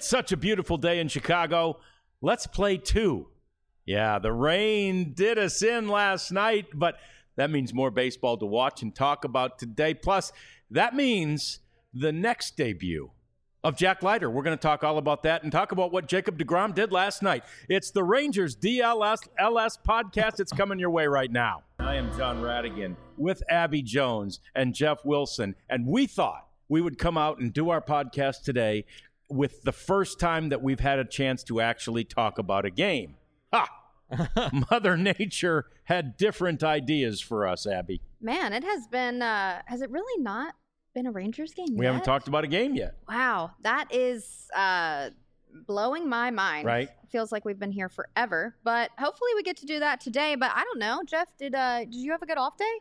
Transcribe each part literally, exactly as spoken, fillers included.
It's such a beautiful day in Chicago. Let's play two. Yeah, the rain did us in last night, but that means more baseball to watch and talk about today. Plus, that means the next debut of Jack Leiter. We're going to talk all about that and talk about what Jacob deGrom did last night. It's the Rangers D L S L S podcast. It's coming your way right now. I am John Radigan with Abby Jones and Jeff Wilson, and we thought we would come out and do our podcast today with the first time that we've had a chance to actually talk about a game. Ha! Mother Nature had different ideas for us, Abby. Man, it has been, uh, has it really not been a Rangers game We yet? haven't talked about a game yet. Wow, that is uh, blowing my mind. Right. Feels like we've been here forever, but hopefully we get to do that today. But I don't know, Jeff, did uh, did you have a good off day?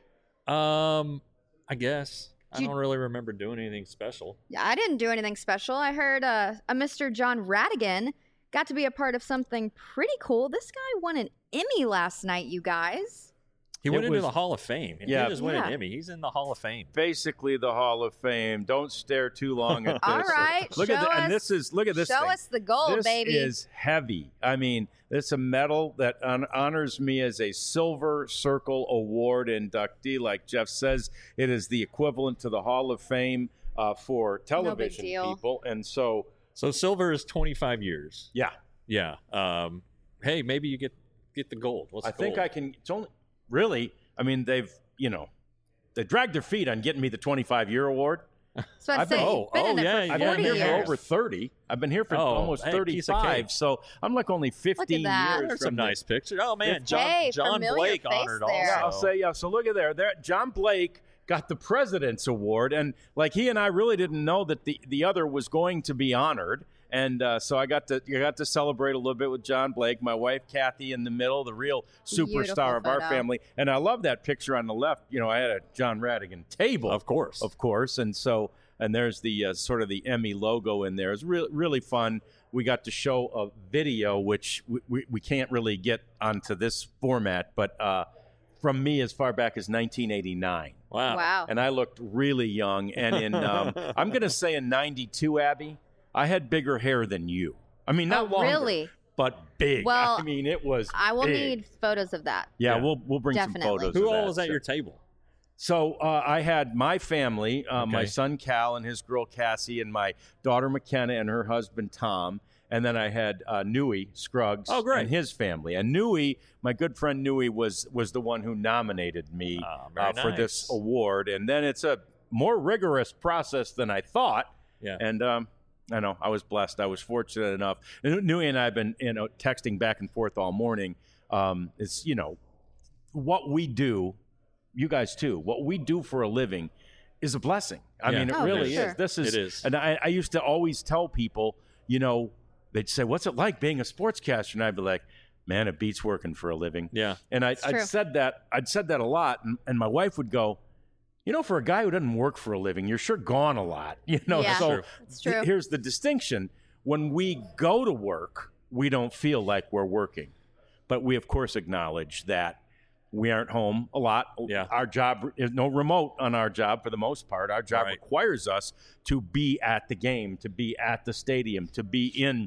Um, I guess. I You- don't really remember doing anything special. Yeah, I didn't do anything special. I heard uh, a Mister John Radigan got to be a part of something pretty cool. This guy won an Emmy last night, you guys. He It went into was- the Hall of Fame. He Yeah. didn't just win Yeah. an Emmy. He's in the Hall of Fame. Basically, the Hall of Fame. Don't stare too long at this. All right, Look show at the, us, and this is look at this. Show thing. us the gold, this baby. is heavy. I mean, it's a medal that on, honors me as a Silver Circle Award inductee. Like Jeff says, it is the equivalent to the Hall of Fame uh, for television deal. people. And so, So silver is twenty-five years. yeah, Yeah. Um, hey, maybe you get get the gold. What's I the think gold? I can. It's only really. I mean, they've you know, they dragged their feet on getting me the twenty-five year award. So I'd I've say been- you've been oh, in there yeah, for I've yeah, been forty here years. for over thirty. I've been here for Oh, almost hey, piece of thirty-five. cake. So I'm like only fifteen that. years. There's from some the- nice pictures. Oh man, John Hey, John familiar Blake face honored there. Yeah, I'll also. say yeah. So look at there. There, John Blake got the President's Award, and like he and I really didn't know that the, the other was going to be honored, and uh, so I got to I got to celebrate a little bit with John Blake, my wife Kathy in the middle, the real superstar Beautiful of our photo. family, and I love that picture on the left. You know, I had a John Radigan table, Of course. of course, and so and there's the uh, sort of the Emmy logo in there. It's really really fun. We got to show a video, which we, we, we can't really get onto this format, but uh, from me as far back as nineteen eighty-nine. Wow. Wow. And I looked really young. And in, um, I'm going to say in ninety-two, Abby, I had bigger hair than you. I mean, not Oh, longer, really? but big. Well, I mean, it was I will big. need photos of that. Yeah, Yeah. we'll we'll bring Definitely. some photos. Who of all that. was at So- your table? So uh, I had my family, uh, my Okay. son Cal and his girl Cassie, and my daughter McKenna and her husband Tom. And then I had uh, Nui Scruggs Oh, great. and his family. And Nui, my good friend Nui, was was the one who nominated me Ah, very uh, for this nice. award. And then it's a more rigorous process than I thought. Yeah. And um, I know I was blessed. I was fortunate enough. And Nui and I have been you know texting back and forth all morning. Um, it's you know what we do, you guys too. What we do for a living is a blessing. I Yeah. mean, it Oh, really for is. sure. This is, It is. and I, I used to always tell people, you know, they'd say, "What's it like being a sportscaster?" And I'd be like, "Man, it beats working for a living." Yeah. And I, It's I'd true. said that. I'd said that a lot, and, and my wife would go, "You know, for a guy who doesn't work for a living, you're sure gone a lot." You know, Yeah. so True. It's true. th- here's the distinction: when we go to work, we don't feel like we're working, but we of course acknowledge that we aren't home a lot. Yeah. Our job is no remote on our job for the most part. Our job Right. requires us to be at the game, to be at the stadium, to be in.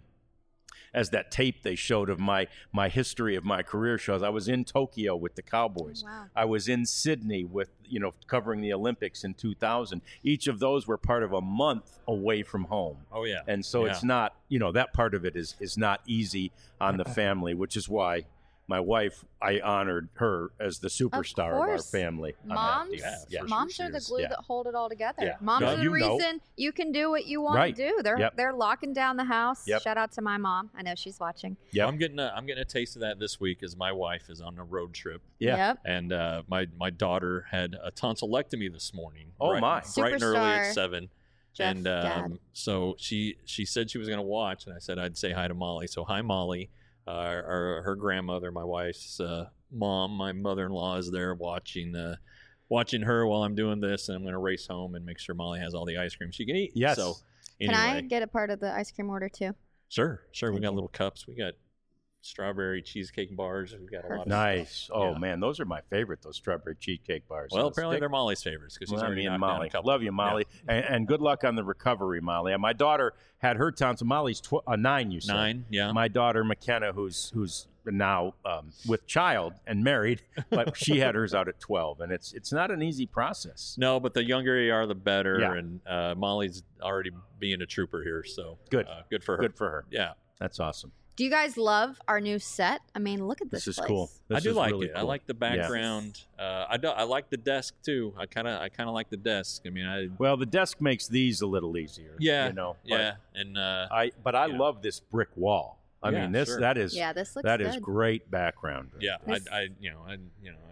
As that tape they showed of my my history of my career shows, I was in Tokyo with the Cowboys. Wow. I was in Sydney with you know covering the Olympics in two thousand. Each of those were part of a month away from home. Oh yeah. And so Yeah. it's not, you know, that part of it is is not easy on the family, which is why my wife, I honored her as the superstar of, our course. family. on that Moms, deal. Yeah, Yeah. for moms sure are she the is. glue Yeah. that hold it all together. Yeah. Moms No, are the you know. reason you can do what you want Right. to do. They're Yep. they're locking down the house. Yep. Shout out to my mom. I know she's watching. Yep. I'm getting a, I'm getting a taste of that this week as my wife is on a road trip, Yeah. Yep. and uh, my my daughter had a tonsillectomy this morning. Oh, bright, my. Bright and early Superstar. at seven. Jeff and Gadd. um, so she she said she was going to watch, and I said I'd say hi to Molly. So hi, Molly. Uh, our, her grandmother, my wife's uh, mom, my mother-in-law is there watching uh, watching her while I'm doing this, and I'm going to race home and make sure Molly has all the ice cream she can eat. Yes. So Can anyway, I get a part of the ice cream order too? sure, sure. We Thank got you. little cups. We got strawberry cheesecake bars. We've got a lot of Nice. stuff. Oh Yeah. man, those are my favorite. Those strawberry cheesecake bars. Well, So apparently stick- they're Molly's favorites because she's Well, already me and knocked down Molly. a couple. Love you, Molly, and, and good luck on the recovery, Molly. And my daughter had her time. So Molly's tw- uh, nine. You said Nine, yeah. My daughter McKenna, who's who's now um, with child and married, but she had hers out at twelve, and it's it's not an easy process. No, but the younger you are, the better. Yeah. And uh, Molly's already being a trooper here, so Good. uh, good for her. Good for her. Yeah, That's awesome. Do you guys love our new set? I mean, look at this. This is place. cool. This I do is like really it. I cool. like the background. Uh, I do, I like the desk too. I kind of I kind of like the desk. I mean, I Well, the desk makes these a little easier. yeah, you know. but yeah, and uh, I but I Yeah. love this brick wall. I Yeah, mean, this sure. that is Yeah, this looks that good. is great background. yeah, This- I, I you know I you know. I,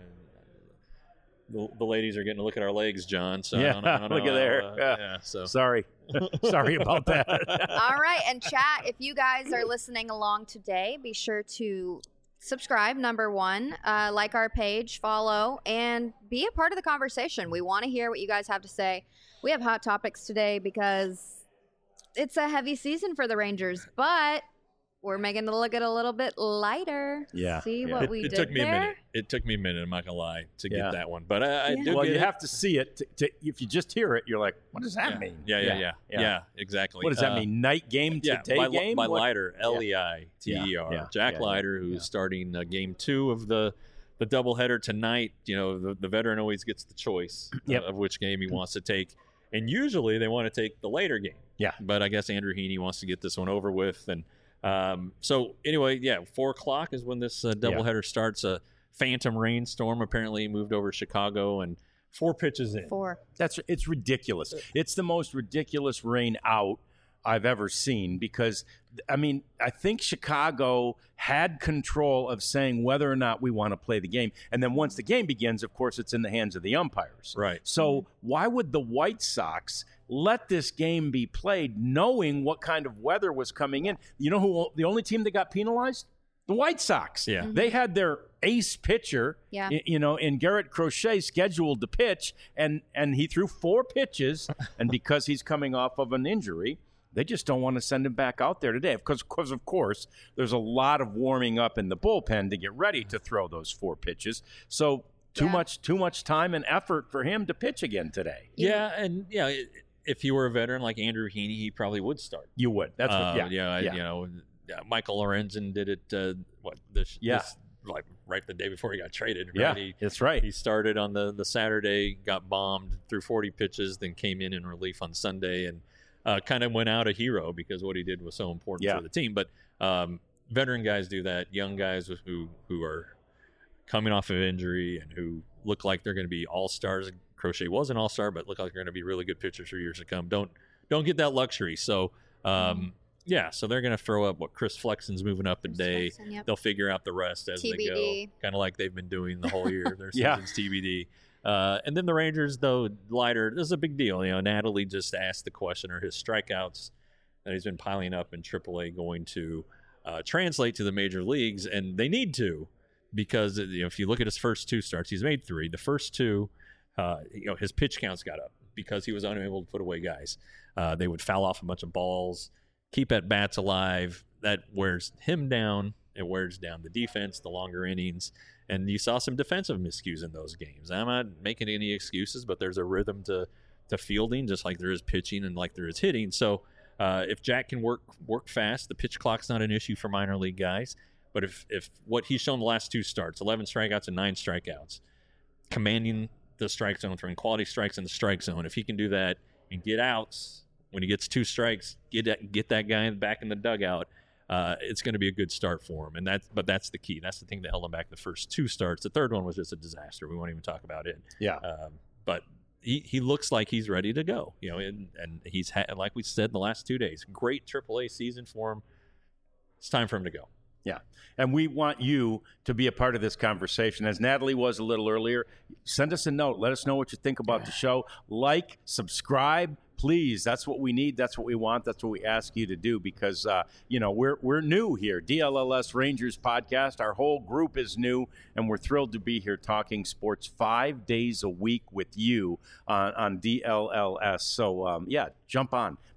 the, the ladies are getting to look at our legs, John. So Yeah, I don't, I don't look know, at there. uh, Yeah. yeah, so Sorry, sorry about that. All right, and chat, if you guys are listening along today, be sure to subscribe, number one, uh, like our page, follow, and be a part of the conversation. We want to hear what you guys have to say. We have hot topics today because it's a heavy season for the Rangers, but we're making it look it a little bit lighter. Yeah, See yeah. what it, we it did took me there? a minute. It took me a minute. I'm not gonna lie to Yeah. get that one, but I, I Yeah. do Well, get you it. have to see it. To, to, if you just hear it, you're like, "What does that yeah. mean?" Yeah, yeah, yeah, yeah, yeah. exactly. What does that Uh, mean? Night game to Yeah, day my, game? my What- lighter, L E I T E R, Yeah, yeah, Jack yeah, Leiter, who's yeah. starting uh, game two of the the doubleheader tonight. You know, the, the veteran always gets the choice Yep. of, of which game he wants to take, and usually they want to take the later game. Yeah. But I guess Andrew Heaney wants to get this one over with, and um, so anyway, yeah, four o'clock is when this uh, doubleheader starts. A phantom rainstorm apparently moved over Chicago, and four pitches in. Four. That's it's ridiculous. It's the most ridiculous rain out I've ever seen because I mean, I think Chicago had control of saying whether or not we want to play the game. And then once the game begins, of course, it's in the hands of the umpires. Right. So why would the White Sox let this game be played knowing what kind of weather was coming in? You know who the only team that got penalized? The White Sox. Yeah. They had their ace pitcher, Yeah. y- you know, in Garrett Crochet scheduled to pitch, and and he threw four pitches, and because he's coming off of an injury, they just don't want to send him back out there today. Because, because of course, there's a lot of warming up in the bullpen to get ready to throw those four pitches. So too Yeah. much, too much time and effort for him to pitch again today. Yeah, and yeah, i- if he were a veteran like Andrew Heaney, he probably would start. You would. That's what. Uh, Yeah. yeah, I- yeah. you know, yeah, Michael Lorenzen did it. Uh, what this? Yeah. this, like right the day before he got traded. Right? Yeah, He, that's right. he started on the the Saturday, got bombed, threw forty pitches, then came in in relief on Sunday, and uh, kind of went out a hero because what he did was so important Yeah. for the team. But um, veteran guys do that. Young guys who who are coming off of injury and who look like they're going to be all stars. Crochet was an all star, but look like they're going to be really good pitchers for years to come. Don't don't get that luxury. So um, yeah, so they're going to throw up what Chris Flexen's moving up a Chris day. Flexen, yep. They'll figure out the rest as T B D. they go, kind of like they've been doing the whole year. Their Yeah. season's T B D. Uh, and then the Rangers, though, Leiter, this is a big deal. You know, Natalie just asked the question: are his strikeouts that he's been piling up in triple A going to uh, translate to the major leagues? And they need to, because you know, if you look at his first two starts, he's made three. The first two, uh, you know, his pitch counts got up because he was unable to put away guys. Uh, they would foul off a bunch of balls, keep at bats alive. That wears him down. It wears down the defense, the longer innings. And you saw some defensive miscues in those games. I'm not making any excuses, but there's a rhythm to, to fielding, just like there is pitching and like there is hitting. So uh, if Jack can work work fast, the pitch clock's not an issue for minor league guys. But if, if what he's shown the last two starts, eleven strikeouts and nine strikeouts, commanding the strike zone, throwing quality strikes in the strike zone, if he can do that and get outs when he gets two strikes, get that, get that guy back in the dugout, uh, it's going to be a good start for him. And that's, but that's the key. That's the thing that held him back the first two starts. The third one was just a disaster. We won't even talk about it. Yeah. Um, but he, he looks like he's ready to go, you know, and, and he's had, like we said, the last two days, great triple A season for him. It's time for him to go. Yeah. And we want you to be a part of this conversation. As Natalie was a little earlier, send us a note. Let us know what you think about the show. Like, subscribe, please. That's what we need. That's what we want. That's what we ask you to do because, uh, you know, we're we're new here. D L L S Rangers podcast. Our whole group is new, and we're thrilled to be here talking sports five days a week with you on, on D L L S. So, um, yeah, jump on.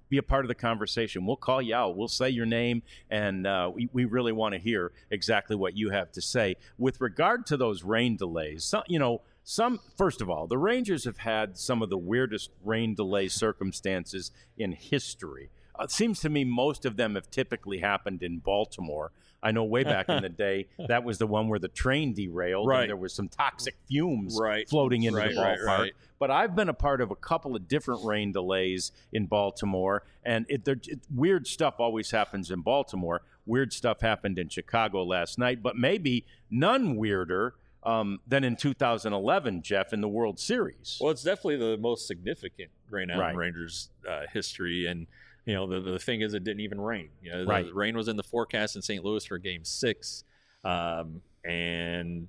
be a part of the conversation. We'll call you out. We'll say your name, and uh, we, we really want to hear exactly what you have to say. With regard to those rain delays, some, you know, some first of all, the Rangers have had some of the weirdest rain delay circumstances in history. Uh, it seems to me most of them have typically happened in Baltimore. I know way back in the day, that was the one where the train derailed Right. and there was some toxic fumes Right. floating into Right, the right, ballpark. right. But I've been a part of a couple of different rain delays in Baltimore, and it, it, weird stuff always happens in Baltimore. Weird stuff happened in Chicago last night, but maybe none weirder um, than in two thousand eleven, Jeff, in the World Series. Well, it's definitely the most significant rain out Right. in Rangers uh, history, and you know the the thing is, it didn't even rain. You know, the, Right. the rain was in the forecast in Saint Louis for Game Six, um, and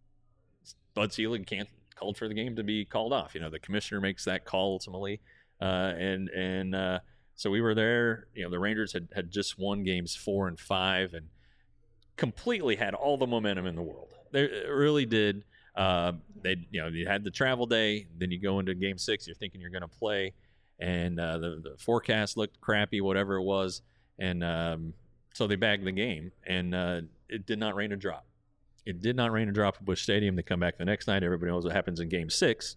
Bud Selig can't called for the game to be called off. You know, the commissioner makes that call ultimately, uh, and and uh, so we were there. You know, the Rangers had had just won games four and five, and completely had all the momentum in the world. They really did. Uh, they, you know, you had the travel day, then you go into Game Six. You're thinking you're going to play, and uh, the the forecast looked crappy, whatever it was, and um, so they bagged the game, and uh, it did not rain a drop. It did not rain a drop at Busch Stadium. They come back the next night. Everybody knows what happens in Game Six.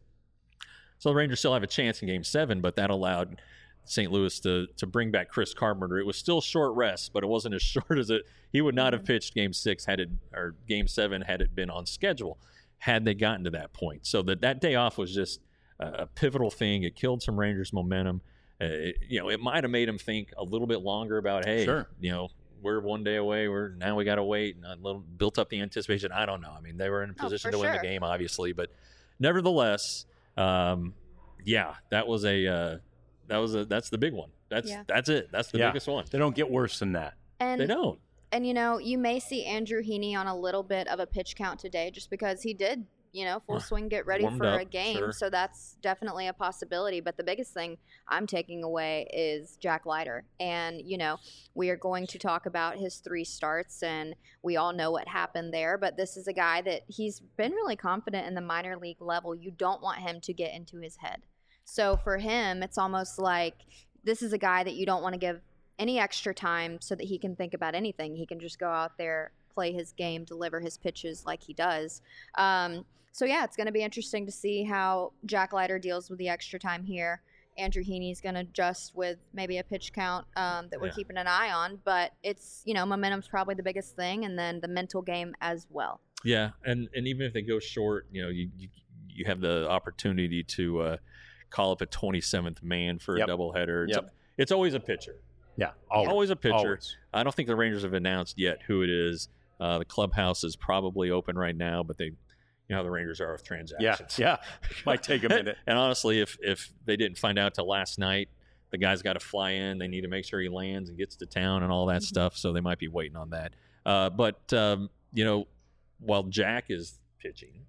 So the Rangers still have a chance in Game Seven, but that allowed Saint Louis to to bring back Chris Carpenter. It was still short rest, but it wasn't as short as it. He would not have pitched Game Six had it or Game Seven had it been on schedule, had they gotten to that point. So that that day off was just a, a pivotal thing. It killed some Rangers momentum. Uh, it, you know, it might have made them think a little bit longer about, hey, Sure. you know, we're one day away. We're now we got to wait, and a little built up the anticipation. I don't know. I mean, they were in a Oh, position for to win the sure. game, obviously, but nevertheless, um, yeah, that was a uh, that was a that's the big one. That's Yeah. that's it. That's the Yeah. biggest one. They don't get worse than that. And They don't. And, you know, you may see Andrew Heaney on a little bit of a pitch count today just because he did, you know, full swing, get ready Warmed for up, a game. sure. So that's definitely a possibility. But the biggest thing I'm taking away is Jack Leiter. And, you know, we are going to talk about his three starts, and we all know what happened there. But this is a guy that he's been really confident in the minor league level. You don't want him to get into his head. So for him, it's almost like this is a guy that you don't want to give any extra time so that he can think about anything. He can just go out there, play his game, deliver his pitches like he does. Um, so, yeah, it's going to be interesting to see how Jack Leiter deals with the extra time here. Andrew Heaney's going to adjust with maybe a pitch count um, that we're Yeah. keeping an eye on. But it's, you know, momentum's probably the biggest thing, and then the mental game as well. Yeah, and and even if they go short, you know, you you, you have the opportunity to uh, call up a twenty-seventh man for Yep. a doubleheader. It's, Yep. it's always a pitcher. Yeah, always, Always a pitcher. Always. I don't think the Rangers have announced yet who it is. Uh, the clubhouse is probably open right now, but they, you know how the Rangers are with Yeah, transactions. yeah. Might take a minute. And honestly, if if they didn't find out till last night, the guy's got to fly in. They need to make sure he lands and gets to town and all that Mhm. stuff. So they might be waiting on that. Uh, but um, you know, while Jack is pitching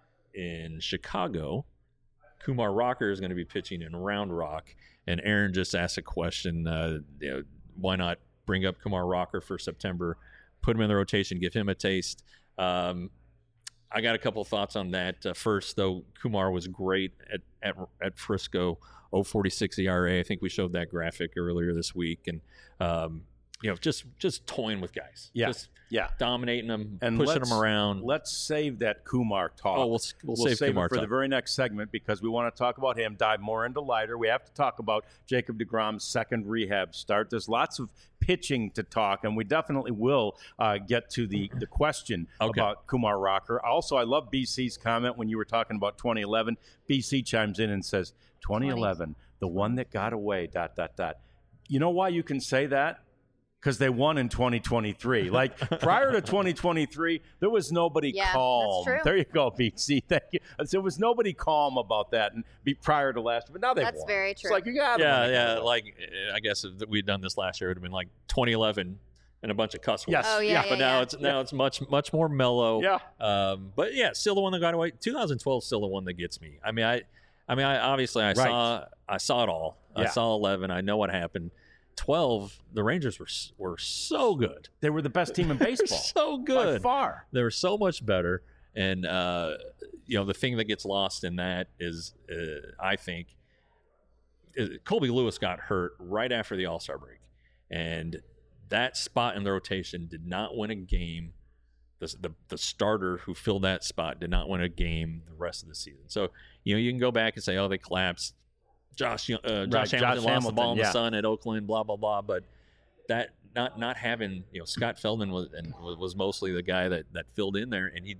in Chicago, Kumar Rocker is going to be pitching in Round Rock. And Aaron just asked a question. Uh, you know, why not bring up Kumar Rocker for September? Put him in the rotation, give him a taste. Um, I got a couple of thoughts on that. Uh, first, though, Kumar was great at at, at Frisco, oh forty-six E R A. I think we showed that graphic earlier this week, and um, you know, just just toying with guys, Yeah. just Yeah. dominating them, And pushing let's- them around. Let's save that Kumar talk. Oh, we'll we'll, We'll save, save Kumar it for talk. the very next segment because we want to talk about him, dive more into Leiter. We have to talk about Jacob deGrom's second rehab start. There's lots of pitching to talk, and we definitely will uh, get to the, the question Okay. about Kumar Rocker. Also, I love B C's comment when you were talking about twenty eleven. B C chimes in and says, twenty eleven, the one that got away, dot, dot, dot. You know why you can say that? Because they won in twenty twenty-three. Like prior to twenty twenty-three, there was nobody Yeah, that's calm. true. There you go, B C. Thank you. There was nobody calm about that, and be prior to last year. But now they That's won. very It's true. like you got yeah, yeah. Like uh, I guess if we'd done this last year, it would have been like twenty eleven and a bunch of cuss words. Yes. Oh, yeah, yeah, but now yeah. it's now it's much much more mellow. Yeah. Um, but yeah, still the one that got away. twenty twelve is still the one that gets me. I mean, I, I mean, I obviously I Right. saw I saw it all. I Yeah. saw eleven. I know what happened. twelve, the Rangers were s- were so good. They were the best team in They were baseball. so By good. far. They were so much better. And uh, you know, the thing that gets lost in that is, uh, I think, Colby Lewis got hurt right after the All-Star break, and that spot in the rotation did not win a game. The, the the starter who filled that spot did not win a game the rest of the season. So, you know, you can go back and say, oh, they collapsed. Josh uh, Josh Right, Hamilton Josh lost Hamilton, the ball in yeah. the sun at Oakland, blah, blah, blah. But that not not having, you know, Scott Feldman was and was mostly the guy that, that filled in there. And he,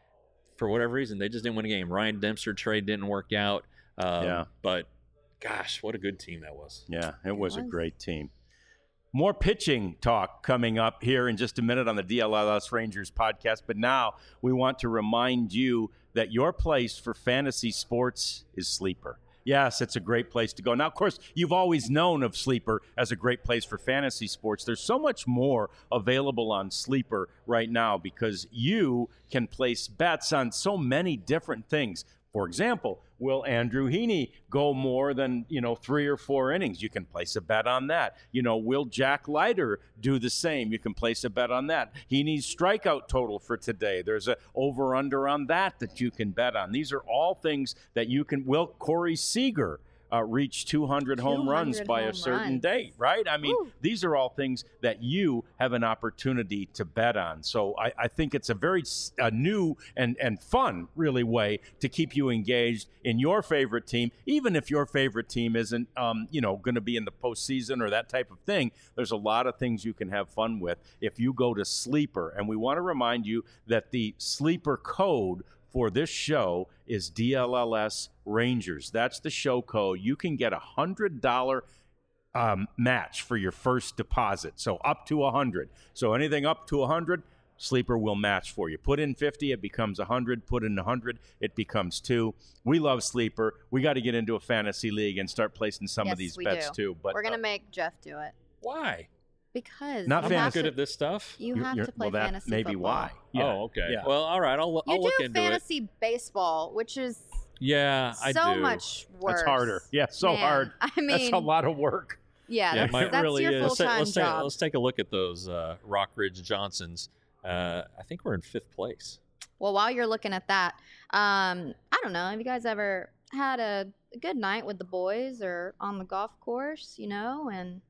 for whatever reason, they just didn't win a game. Ryan Dempster trade didn't work out. Um, Yeah. But, gosh, what a good team that was. Yeah, it was a was. great team. More pitching talk coming up here in just a minute on the D L L S Rangers podcast. But now we want to remind you that your place for fantasy sports is Sleeper. Yes, it's a great place to go. Now, of course, you've always known of Sleeper as a great place for fantasy sports. There's so much more available on Sleeper right now because you can place bets on so many different things. For example, will Andrew Heaney go more than, you know, three or four innings? You can place a bet on that. You know, will Jack Leiter do the same? You can place a bet on that. Heaney's strikeout total for today. There's a over-under on that that you can bet on. These are all things that you can. Will Corey Seager uh, reach two hundred home runs by a home certain runs. date, right? I mean, Woo. these are all things that you have an opportunity to bet on. So I, I think it's a very s- a new and, and fun, really, way to keep you engaged in your favorite team, even if your favorite team isn't, um, you know, going to be in the postseason or that type of thing. There's a lot of things you can have fun with if you go to Sleeper. And we want to remind you that the Sleeper code for this show is D L L S Rangers. That's the show code. You can get a one hundred dollars um, match for your first deposit, so up to one hundred dollars. So anything up to one hundred dollars, Sleeper will match for you. Put in fifty, it becomes one hundred. Put in one hundred, it becomes two. We love Sleeper. We got to get into a fantasy league and start placing some Yes, of these we bets do. too. But We're gonna uh, make Jeff do it Why? because Not you I'm not have good to, at this stuff. You you're- have you're- to play well, that fantasy may be football. why. Yeah. Oh, okay. Yeah. Well, all right. I'll, I'll You look do into it. fantasy baseball, which is Yeah, I so do. much worse. That's harder. Yeah, so Man, hard. I mean, That's a lot of work. Yeah, Yeah, that's, my- that's really your is. full Let's, take, time let's, take, job. let's take a look at those uh, Rockridge Johnsons. Uh, I think we're in fifth place. Well, while you're looking at that, um, I don't know. Have you guys ever had a, a good night with the boys or on the golf course? You know, and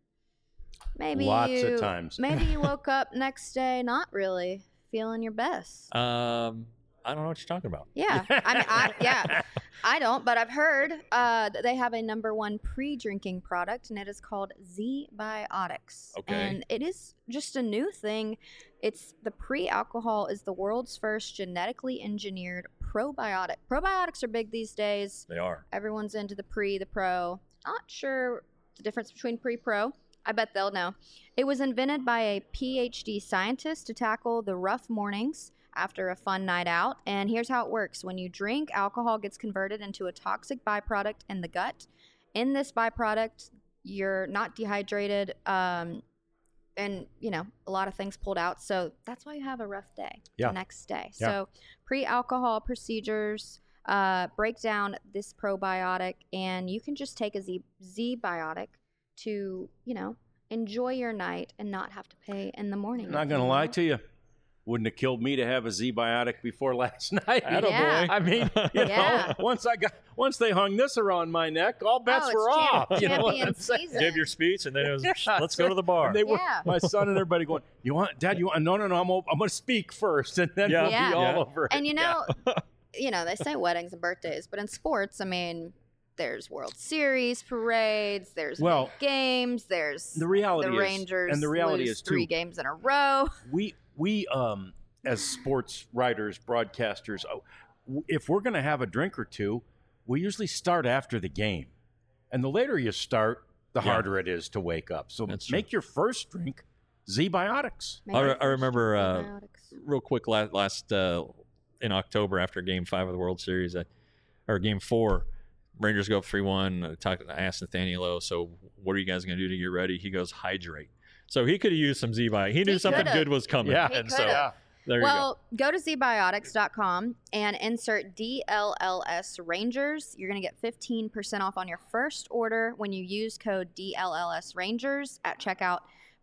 maybe Lots you, of times. maybe you woke up next day not really feeling your best. Um, I don't know what you're talking about. Yeah, I mean, I, yeah, I don't, but I've heard uh, that they have a number one pre-drinking product, and it is called Z-Biotics. Okay. And it is just a new thing. It's the pre-alcohol is the world's first genetically engineered probiotic. Probiotics are big these days. They are. Everyone's into the pre, the pro. Not sure the difference between pre-pro. I bet they'll know. It was invented by a P H D scientist to tackle the rough mornings after a fun night out. And here's how it works. When you drink, alcohol gets converted into a toxic byproduct in the gut. In this byproduct, you're not dehydrated, um, and, you know, a lot of things pulled out. So that's why you have a rough day Yeah. the next day. Yeah. So pre-alcohol procedures uh, break down this probiotic, and you can just take a Z, Z-Biotic to, you know, enjoy your night and not have to pay in the morning. I'm not going to lie to you. Wouldn't have killed me to have a Z-Biotic before last night. Attaboy. Yeah. I mean, you Yeah. know, once I got, once they hung this around my neck, all bets Oh, it's were champ- off. You know what champion I'm saying? season. Give your speech, and then it was, Yeah, let's go to the bar. And they were, Yeah. my son and everybody going, you want, Dad, you want, no, no, no, I'm, I'm going to speak first, and then Yeah. we'll Yeah. be all Yeah. over it. And you know, you know, they say weddings and birthdays, but in sports, I mean, there's World Series parades, there's Well, big games, there's the reality the is- Rangers and the reality lose is, too, three games in a row. we we um as sports writers, broadcasters, uh, w- if we're going to have a drink or two, we usually start after the game, and the later you start, the Yeah. harder it is to wake up. So That's true. make your first drink Z-Biotics. Make I, your re- I first remember uh, antibiotics. real quick last, last uh, in October after Game Five of the World Series, I, or Game Four, Rangers go up three one. I, talked, I asked Nathaniel, so what are you guys going to do to get ready? He goes, hydrate. So he could have used some Z-Biotic. He knew He something could've. good was coming. Yeah. He and so could've. there you Well, go. to z biotics dot com and insert D L L S Rangers. You're going to get fifteen percent off on your first order when you use code D L L S Rangers at checkout.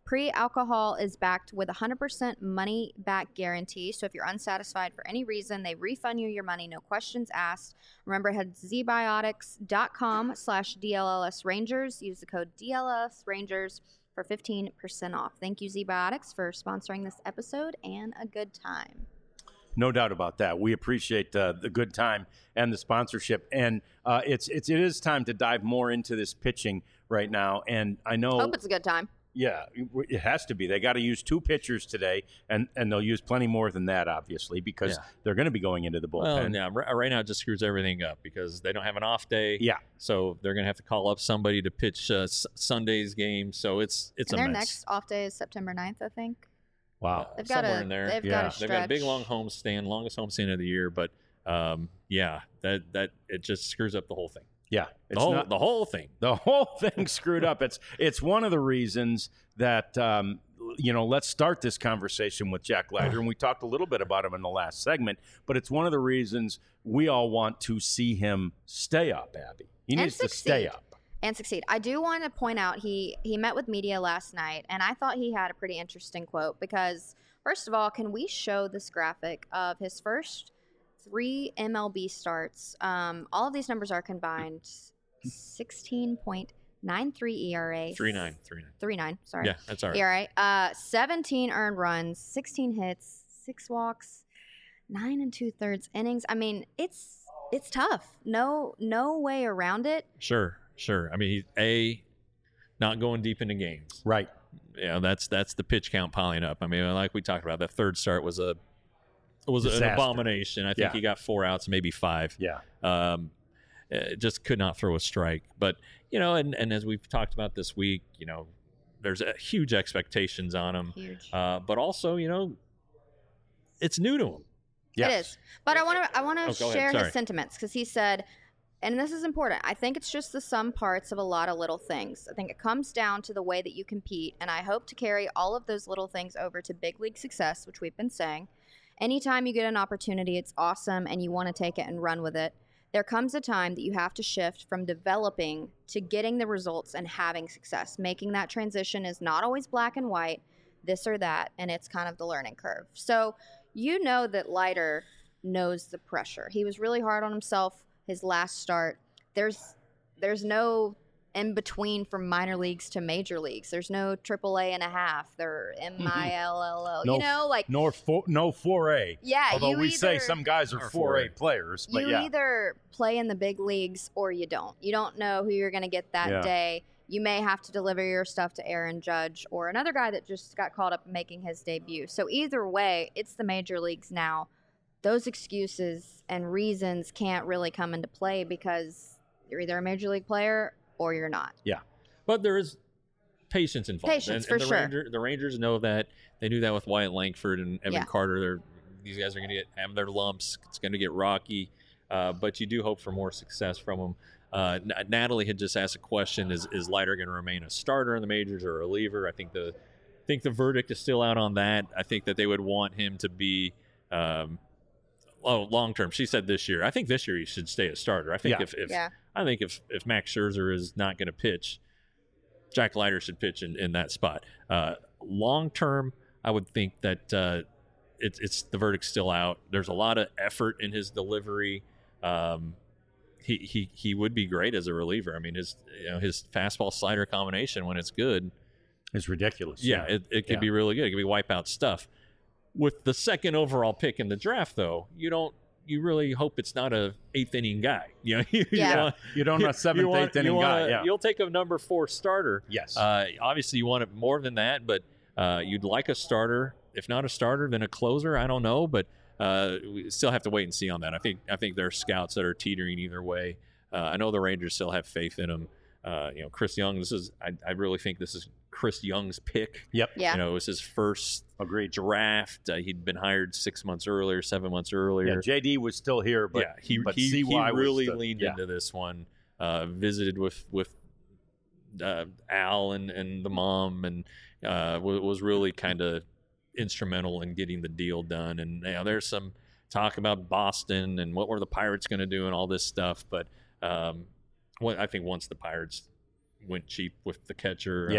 Pre-alcohol is backed with a one hundred percent money back guarantee. So if you're unsatisfied for any reason, they refund you your money, no questions asked. Remember, head to zbiotics.com slash DLLS Rangers. Use the code D L L S Rangers for fifteen percent off. Thank you, ZBiotics, for sponsoring this episode and a good time. No doubt about that. We appreciate uh, the good time and the sponsorship. And uh, it's, it's, it is time to dive more into this pitching right now. And I know... Hope it's a good time. Yeah, it has to be. They got to use two pitchers today, and, and they'll use plenty more than that, obviously, because yeah. they're going to be going into the bullpen. Well, yeah, right now it just screws everything up because they don't have an off day. Yeah. So they're going to have to call up somebody to pitch uh, Sunday's game. So it's it's and a their mess. next off day is September ninth, I think. Wow. Uh, they've got somewhere a, in there. They've yeah. got a They've got a big long homestand, longest homestand of the year, but um, yeah, that that it just screws up the whole thing. Yeah, it's the whole, not, the whole thing. The whole thing screwed up. It's it's one of the reasons that um, you know. Let's start this conversation with Jack Leiter, and we talked a little bit about him in the last segment. But it's one of the reasons we all want to see him stay up. Abby, he and needs succeed. to stay up and succeed. I do want to point out he he met with media last night, and I thought he had a pretty interesting quote because first of all, can we show this graphic of his first three M L B starts? Um, all of these numbers are combined. sixteen point nine three E R A. three nine. three nine. three nine, sorry. Yeah, that's all right. E R A. Uh, seventeen earned runs, sixteen hits, six walks, nine and two thirds innings. I mean, it's it's tough. No no way around it. Sure, sure. I mean, he's A, not going deep into games. right. Yeah, that's that's the pitch count piling up. I mean, like we talked about, that third start was a was Disaster. an abomination. I think Yeah. he got four outs, maybe five. Yeah. Um, uh, just could not throw a strike. But you know, and and as we've talked about this week, you know, there's a huge expectations on him. Huge. Uh, but also, you know, it's new to him. Yes. It is. But I want to I want to Oh, go ahead. share Sorry. his sentiments because he said, and this is important, I think it's just the sum parts of a lot of little things. I think it comes down to the way that you compete, and I hope to carry all of those little things over to big league success, which we've been saying. Anytime you get an opportunity, it's awesome, and you want to take it and run with it. There comes a time that you have to shift from developing to getting the results and having success. Making that transition is not always black and white, this or that, and it's kind of the learning curve. So you know that Leiter knows the pressure. He was really hard on himself his last start. There's there's no in between from minor leagues to major leagues. There's no triple A and a half. They're M I L L O. No, you know, like no four, no four A. yeah. Although you we either, say some guys are Or four A four A. players, but you yeah, either play in the big leagues or you don't. You don't know who you're going to get that Yeah. day. You may have to deliver your stuff to Aaron Judge or another guy that just got called up making his debut. So either way, it's the major leagues now. Those excuses and reasons can't really come into play because you're either a major league player or you're not. But there is patience involved. Patience, and, for and the sure. Ranger, the Rangers know that. They knew that with Wyatt Langford and Evan Yeah. Carter. They're, these guys are going to get have their lumps. It's going to get rocky. Uh, but you do hope for more success from them. Uh, N- Natalie had just asked a question: Is is Leiter going to remain a starter in the majors or a reliever? I think the I think the verdict is still out on that. I think that they would want him to be. Um, Oh, long term. She said this year. I think this year he should stay a starter. I think Yeah. if, if Yeah. I think if if Max Scherzer is not going to pitch, Jack Leiter should pitch in, in that spot. Uh, long term, I would think that uh, it's it's the verdict's still out. There's a lot of effort in his delivery. Um, he he he would be great as a reliever. I mean, his you know his fastball slider combination when it's good, it's ridiculous. yeah, it, it could Yeah. be really good. It could be wipeout stuff. With the second overall pick in the draft, though, you don't. You really hope it's not a eighth inning guy. You know, you, Yeah. you want, You don't want a seventh, you want- eighth inning you want guy. a- Yeah. You'll take a number four starter. Yes. Uh, obviously, you want it more than that, but uh, you'd like a starter. If not a starter, then a closer. I don't know, but uh, we still have to wait and see on that. I think I think there are scouts that are teetering either way. Uh, I know the Rangers still have faith in him. Uh, you know, Chris Young. This is I, I really think this is Chris Young's pick. Yep. Yeah. You know, it was his first Agreed. draft. Uh, he'd been hired six months earlier, seven months earlier. Yeah. J D was still here, but yeah, he but he, C he Y was really the- leaned yeah. into this one. Uh, visited with with uh, Al and, and the mom, and uh, was, was really kind of instrumental in getting the deal done. And you know, there's some talk about Boston and what were the Pirates going to do and all this stuff. But um, what I think once the Pirates went cheap with the catcher, Yeah. uh,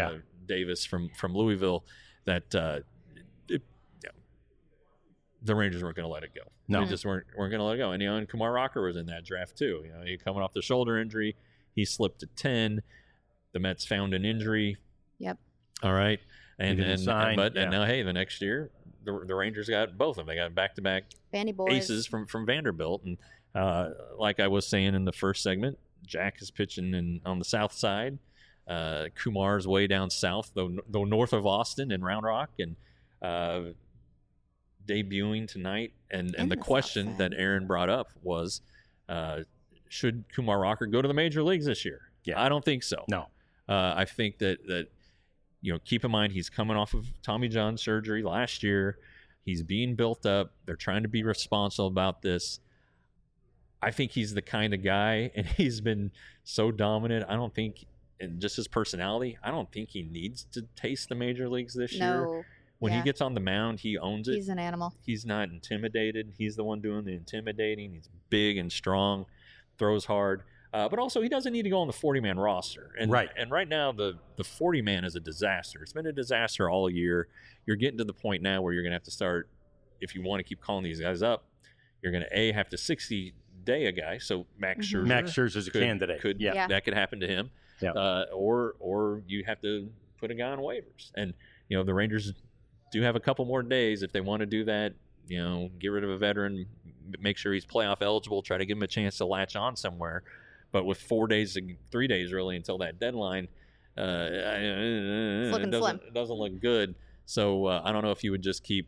Davis from from Louisville that uh, it, yeah, the Rangers weren't going to let it go. No. They just weren't weren't going to let it go. And you know, and Kumar Rocker was in that draft too. You know, he coming off the shoulder injury, he slipped to ten. The Mets found an injury. Yep. All right, and didn't and, sign, and but yeah. and now hey, the next year the the Rangers got both of them. They got back to back Vandy boys. aces from from Vanderbilt, and uh, like I was saying in the first segment, Jack is pitching in on the south side. Uh, Kumar's way down south, though, though north of Austin in Round Rock, and uh, debuting tonight. And In and the the south question side. that Aaron brought up was, uh, should Kumar Rocker go to the major leagues this year? Yeah. I don't think so. No. Uh, I think that that you know, keep in mind he's coming off of Tommy John surgery last year. He's being built up. They're trying to be responsible about this. I think he's the kind of guy, and he's been so dominant. I don't think, and just his personality, I don't think he needs to taste the major leagues this year. No. When yeah. he gets on the mound, he owns it. He's an animal. He's not intimidated. He's the one doing the intimidating. He's big and strong, throws hard. Uh, but also, he doesn't need to go on the forty-man roster. And, Right. And right now, the the forty-man is a disaster. It's been a disaster all year. You're getting to the point now where you're going to have to start, if you want to keep calling these guys up, you're going to, A, have to sixty-day a guy. So Max Mhm. Scherzer. Max Scherzer's a could, candidate. Could, yeah. Yeah. That could happen to him. Yeah. Uh, or or you have to put a guy on waivers. And, you know, the Rangers do have a couple more days if they want to do that. You know, get rid of a veteran, m- make sure he's playoff eligible, try to give him a chance to latch on somewhere. But with four days, three days really until that deadline, uh, it looking doesn't, slim. it doesn't look good. So uh, I don't know if you would just keep,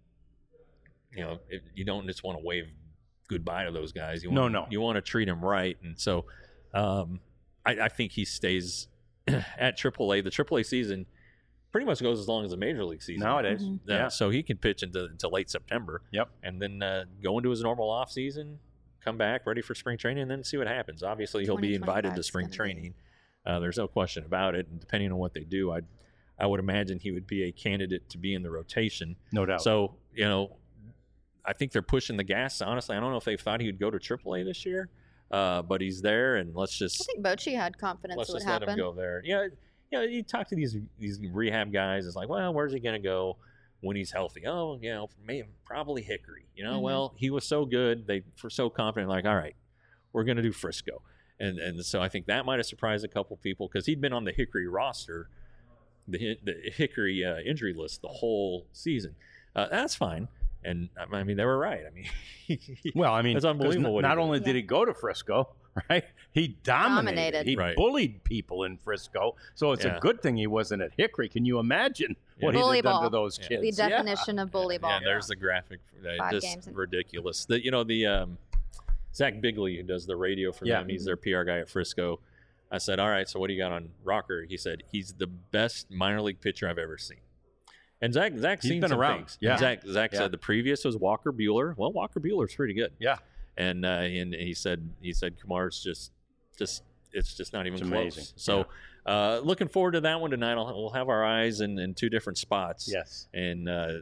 you know, if you don't just want to wave goodbye to those guys. You No, want, no. You want to treat them right. And so um, I, I think he stays at triple A. The triple A season pretty much goes as long as the major league season. Nowadays. Mhm. Yeah, Yeah. so he can pitch into, into late September. Yep. And then uh, go into his normal off season, come back ready for spring training, and then see what happens. Obviously, he'll be invited to twenty twenty-five 's spring gonna be- training. Uh, there's no question about it. And depending on what they do, I I would imagine he would be a candidate to be in the rotation. No doubt. So, you know, I think they're pushing the gas. Honestly, I don't know if they thought he would go to triple A this year, uh, but he's there, and let's just I think Bochy had confidence let's it would just let happen. him go there. Yeah, you know, you talk to these these rehab guys. It's like, well, where's he going to go when he's healthy? Oh, you know, maybe probably Hickory. You know, Mhm. well, he was so good, they were so confident. Like, all right, we're going to do Frisco, and and so I think that might have surprised a couple people because he'd been on the Hickory roster, the Hi- the Hickory uh, injury list the whole season. Uh, that's fine, and I mean they were right. I mean, well, I mean, That's 'cause unbelievable n- what he Not did. only did he go to Frisco, right? He dominated. Dominated. He Right. bullied people in Frisco. So it's Yeah. a good thing he wasn't at Hickory. Can you imagine what Yeah. he'd Bully have done to ball. those Yeah. kids? The Yeah. definition of bully ball. Yeah, there's the graphic. Uh, Five just games in- ridiculous. The, you know, the um, Zach Bigley, who does the radio for Yeah. them, he's their P R guy at Frisco. I said, all right, so what do you got on Rocker? He said, he's the best minor league pitcher I've ever seen. And Zach, Zach's He's seen been some around. things. Yeah. And Zach, Zach Yeah. said the previous was Walker Buehler. Well, Walker Buehler's pretty good. Yeah. And uh, and he said he said Kumar's just just it's just not even It's close. amazing. So uh, looking forward to that one tonight. I'll, we'll have our eyes in, in two different spots. Yes. And uh, uh,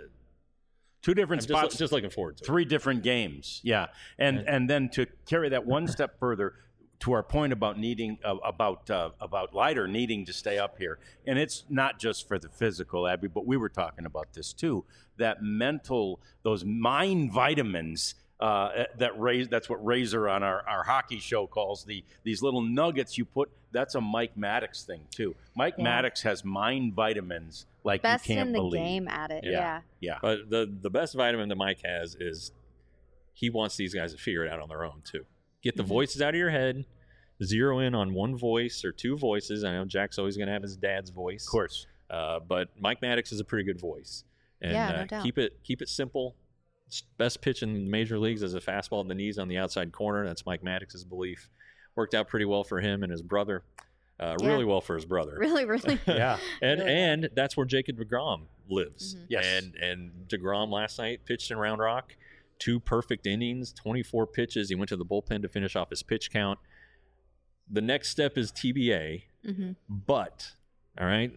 Two I'm different just, spots. just looking forward to it. Three different games. Yeah. And And- and then to carry that one step further to our point about needing uh, about uh, about Leiter needing to stay up here. And it's not just for the physical, Abby, but we were talking about this too. That mental, those mind vitamins uh, that raise that's what Razor on our, our hockey show calls the these little nuggets you put. That's a Mike Maddox thing too. Mike Yeah. Maddox has mind vitamins like Best you can't in the believe. game at it. Yeah. Yeah. Yeah. But the the best vitamin that Mike has is he wants these guys to figure it out on their own too. Get the Mhm. voices out of your head, zero in on one voice or two voices. I know Jack's always going to have his dad's voice, Of course. uh, but Mike Maddox is a pretty good voice. And Yeah, no uh, doubt. keep it keep it simple. S- Best pitch in the major leagues is a fastball in the knees on the outside corner. That's Mike Maddox's belief. Worked out pretty well for him and his brother. Uh, Yeah. Really well for his brother. Really, really. Yeah. And Really and that's where Jacob DeGrom lives. Mhm. Yes. And and DeGrom last night pitched in Round Rock, two perfect innings, twenty-four pitches. He went to the bullpen to finish off his pitch count. The next step is T B A, hmm but all right,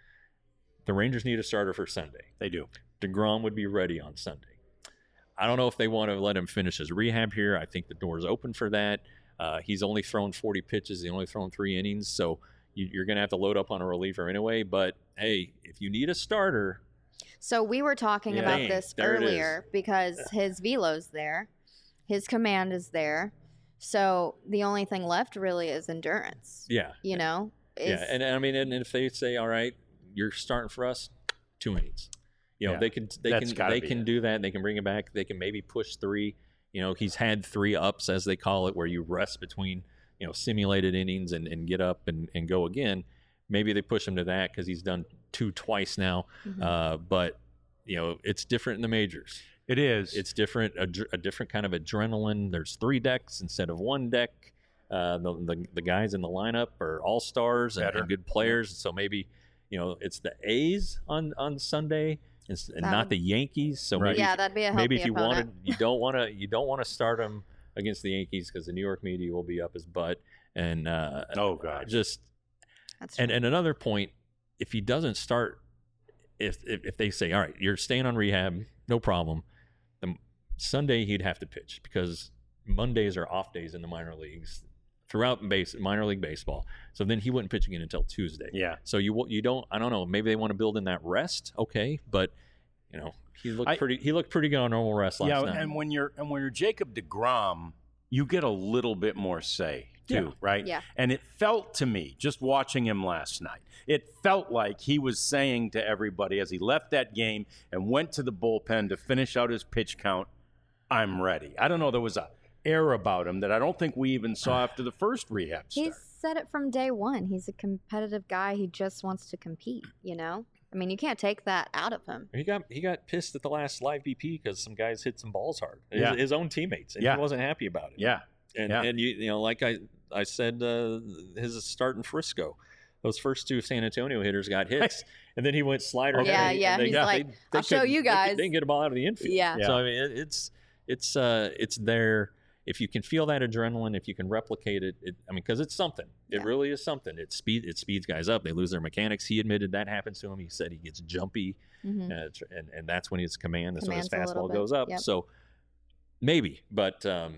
the Rangers need a starter for Sunday. They do. DeGrom would be ready on Sunday. I don't know if they want to let him finish his rehab here. I think the door's open for that. Uh, he's only thrown forty pitches. He's only thrown three innings, so you, you're going to have to load up on a reliever anyway. But hey, if you need a starter, So we were talking Yeah. about Dang, this there it is. earlier because his velo's there, his command is there. So the only thing left really is endurance. yeah, You know, is, yeah, and, and I mean, and if they say, all right, you're starting for us, two innings, you know, Yeah. they can they That's can gotta they be can it. do that. They can bring it back. They can maybe push three. You know, he's had three ups, as they call it, where you rest between, you know, simulated innings and, and get up and, and go again. Maybe they push him to that because he's done two twice now. Mhm. Uh, but you know, it's different in the majors. It is. It's different, a, dr- a different kind of adrenaline. There's three decks instead of one deck. Uh, the, the the guys in the lineup are all stars and, Better. and good players. So maybe, you know, it's the A's on, on Sunday and, s- and That not would- the Yankees. So Right. maybe yeah, that'd be a healthy maybe if you opponent. wanted, you don't want to you don't want to start him against the Yankees because the New York media will be up his butt. And uh, Oh, God. just That's and true. and another point, if he doesn't start, if, if if they say, all right, you're staying on rehab, no problem, then Sunday he'd have to pitch because Mondays are off days in the minor leagues throughout base minor league baseball. So then he wouldn't pitch again until Tuesday. Yeah. So you wa- you don't I don't know, maybe they want to build in that rest, okay, but you know he looked I- pretty he looked pretty good on normal rest last Yeah, night. and when you're and when you're Jacob deGrom, you get a little bit more say too, Yeah. right? Yeah. And it felt to me, just watching him last night, it felt like he was saying to everybody as he left that game and went to the bullpen to finish out his pitch count, "I'm ready." I don't know. There was a air about him that I don't think we even saw after the first rehab start. He's said it from day one. He's a competitive guy. He just wants to compete, you know? I mean, you can't take that out of him. He got he got pissed at the last live B P because some guys hit some balls hard. His, Yeah. his own teammates, and Yeah. he wasn't happy about it. Yeah. And Yeah. and you you know, like I I said, uh, his start in Frisco, those first two San Antonio hitters got hits, and then he went slider. Okay. Yeah, and yeah, they- he's they- like, they "I'll show couldn't- you they could- guys." They didn't get a ball out of the infield. Yeah. Yeah. So I mean, it, it's it's uh it's there. If you can feel that adrenaline, if you can replicate it, it I mean, because it's something. It Yeah. really is something. It speed it speeds guys up. They lose their mechanics. He admitted that happens to him. He said he gets jumpy. hmm Uh, tr- and and that's when his command, that's Command's a when his little fastball bit, goes up. yep. So maybe, but um,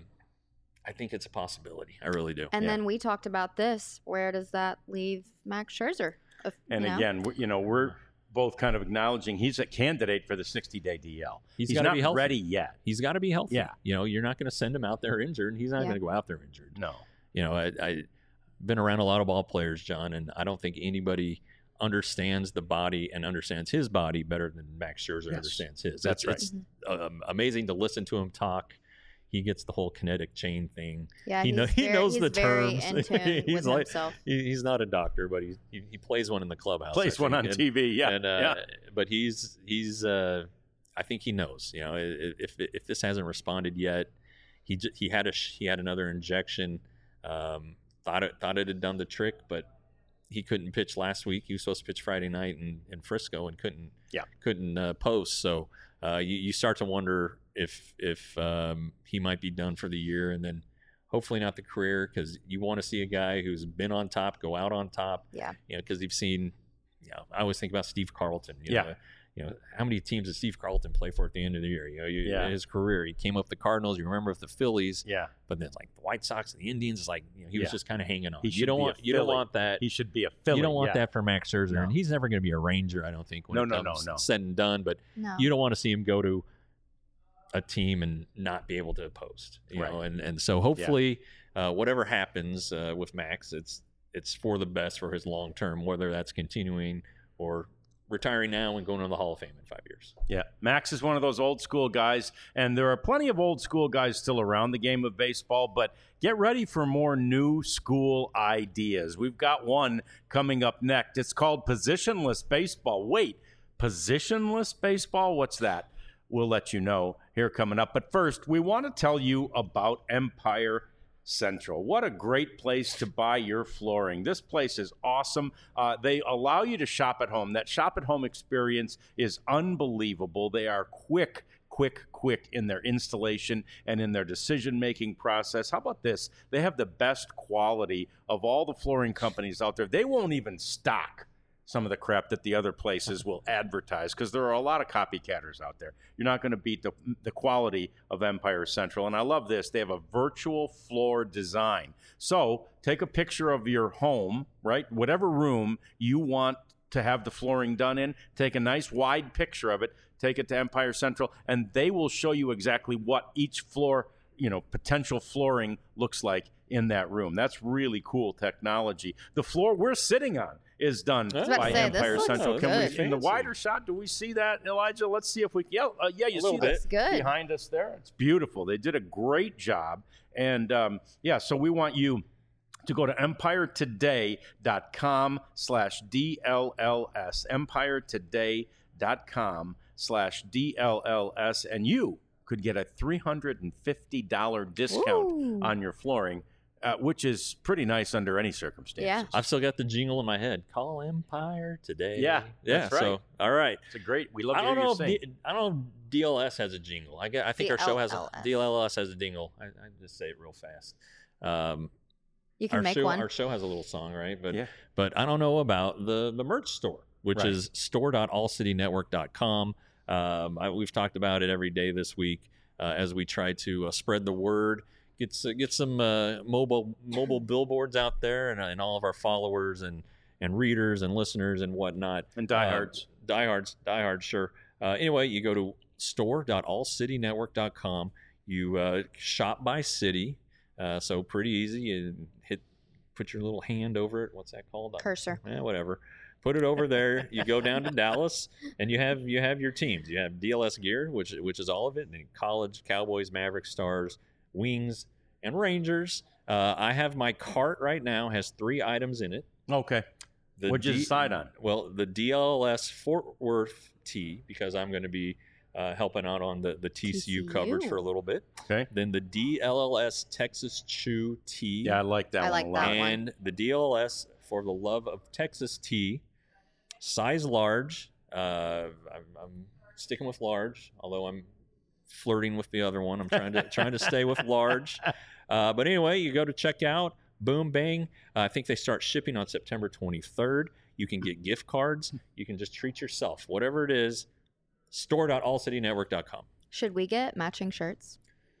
I think it's a possibility. I really do. And Yeah. then we talked about this. Where does that leave Max Scherzer? If- And you know? again, we- you know, we're both kind of acknowledging he's a candidate for the sixty-day D L. He's He's gotta not be healthy. ready yet. He's got to be healthy. Yeah. You know, you're not going to send him out there injured, and he's not Yeah. going to go out there injured. No. You know, I, I been around a lot of ball players, John, and I don't think anybody understands the body and understands his body better than Max Scherzer Yes. understands his. That's right. It's um, amazing to listen to him talk. He gets the whole kinetic chain thing. Yeah, he he's know- he very, knows he's the very terms. in tune He's with like- himself. He, he's not a doctor, but he, he he plays one in the clubhouse. Plays I one think. on And- T V. Yeah. and, uh, yeah. But he's he's uh, I think he knows. You know, i- if if this hasn't responded yet, he j- he had a sh- he had another injection. Um, thought it thought it had done the trick, but he couldn't pitch last week. He was supposed to pitch Friday night in, in Frisco and couldn't Yeah. couldn't uh, post. So uh, you you start to wonder if if um, he might be done for the year, and then hopefully not the career, because you want to see a guy who's been on top go out on top. Yeah. You know, because you've seen. You know, I always think about Steve Carlton. You Yeah. Know, you know, how many teams did Steve Carlton play for at the end of the year? You know, you, Yeah. his career, he came up the Cardinals. You remember with the Phillies, Yeah. but then like the White Sox and the Indians, it's like you know, he was Yeah. just kind of hanging on. He You should don't be a want you don't Philly. want that. He should be a Philly. You don't want yeah. that for Max Scherzer, No. and he's never going to be a Ranger, I don't think. When No, it no, no, comes no. said and done, but No. you don't want to see him go to a team and not be able to post. You Right. know, and and so hopefully, uh, whatever happens uh, with Max, it's it's for the best for his long term, whether that's continuing or retiring now and going to the Hall of Fame in five years. Yeah, Max is one of those old school guys, and there are plenty of old school guys still around the game of baseball, but get ready for more new school ideas. We've got one coming up next. It's called positionless baseball. Wait, positionless baseball? What's that? We'll let you know here coming up. But first, we want to tell you about Empire Central. What a great place to buy your flooring. This place is awesome. Uh, they allow you to shop at home. That shop at home experience is unbelievable. They are quick, quick, quick in their installation and in their decision-making process. How about this? They have the best quality of all the flooring companies out there. They won't even stock some of the crap that the other places will advertise, because there are a lot of copycatters out there. You're not going to beat the, the quality of Empire Central. And I love this. They have a virtual floor design. So take a picture of your home, right? Whatever room you want to have the flooring done in, take a nice wide picture of it, take it to Empire Central, and they will show you exactly what each floor, you know, potential flooring looks like in that room. That's really cool technology. The floor we're sitting on is done I was about by to say, this Empire looks Central. Can good. we, in the Fancy. wider shot, do we see that, Elijah? Let's see if we yeah, uh, yeah, you A see little that bit. Looks good. behind us there. It's beautiful. They did a great job. And um, yeah, so we want you to go to empire today dot com slash D L L S, empire today dot com slash D L L S, and you could get a three hundred fifty dollars discount Ooh. on your flooring, uh, which is pretty nice under any circumstances. Yeah. I've still got the jingle in my head. Call Empire today. Yeah, yeah. that's right. So, all right. It's a great, we love I to don't hear know. you If sing. D, I don't know. If D L S has a jingle. I get. I think our show has a D L L S. D L L S has a jingle. I, I just say it real fast. Um, You can our make show, one. Our show has a little song, right? But Yeah. but I don't know about the the merch store, which Right. is store dot all city network dot com. Um, I, we've talked about it every day this week uh, as we try to uh, spread the word, get s- get some uh, mobile mobile billboards out there, and, and all of our followers and and readers and listeners and whatnot. And diehards. Uh, diehards, diehards, sure. Uh, anyway, you go to store dot all city network dot com. You uh, shop by city, uh, so pretty easy. You hit, put your little hand over it. What's that called? Cursor. Eh, whatever. Put it over there. You go down to Dallas, and you have you have your teams. You have D L S gear, which which is all of it. And college, Cowboys, Mavericks, Stars, Wings, and Rangers. Uh, I have my cart right now has three items in it. Okay. The What'd you D- decide on? Well, the D L S Fort Worth tee, because I'm going to be uh, helping out on the, the T C U T C U. coverage for a little bit. Okay. Then the D L L S Texas Chew tee. Yeah, I like that I one like a that lot. one. And the D L L S For the Love of Texas tee, size large. Uh, I'm, I'm sticking with large, although I'm flirting with the other one. I'm trying to trying to stay with large. Uh, but anyway, you go to checkout. Boom, bang. Uh, I think they start shipping on September twenty-third. You can get gift cards. You can just treat yourself. Whatever it is, store dot all city network dot com. Should we get matching shirts?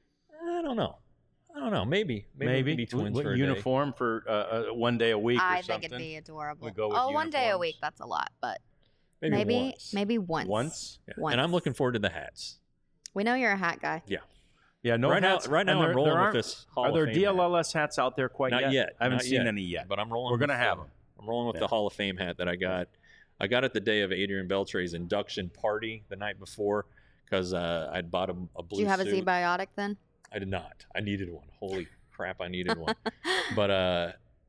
I don't know. I don't know. Maybe. Maybe, we Maybe. can be twins What for a day. uniform for uh, uh, one day a week or I something? think it'd be adorable. We go with oh, one day a uniforms. week. That's a lot, but Maybe, maybe once. maybe once. Once? Yeah. once. And I'm looking forward to the hats. We know you're a hat guy. Yeah, no right hats. now, right And now there- I'm rolling there with aren't- this Hall Are of there Fame D L hat. L S hats out there quite Not yet? yet. I haven't Not seen yet. any yet. But I'm rolling. We're gonna with, have uh, them. I'm rolling with Yeah. the Hall of Fame hat that I got. I got it the day of Adrian Beltre's induction party the night before because uh, I'd bought a, a blue Do you have a suit. Z-Biotic then? I did not. I needed one. Holy crap, I needed one. But uh,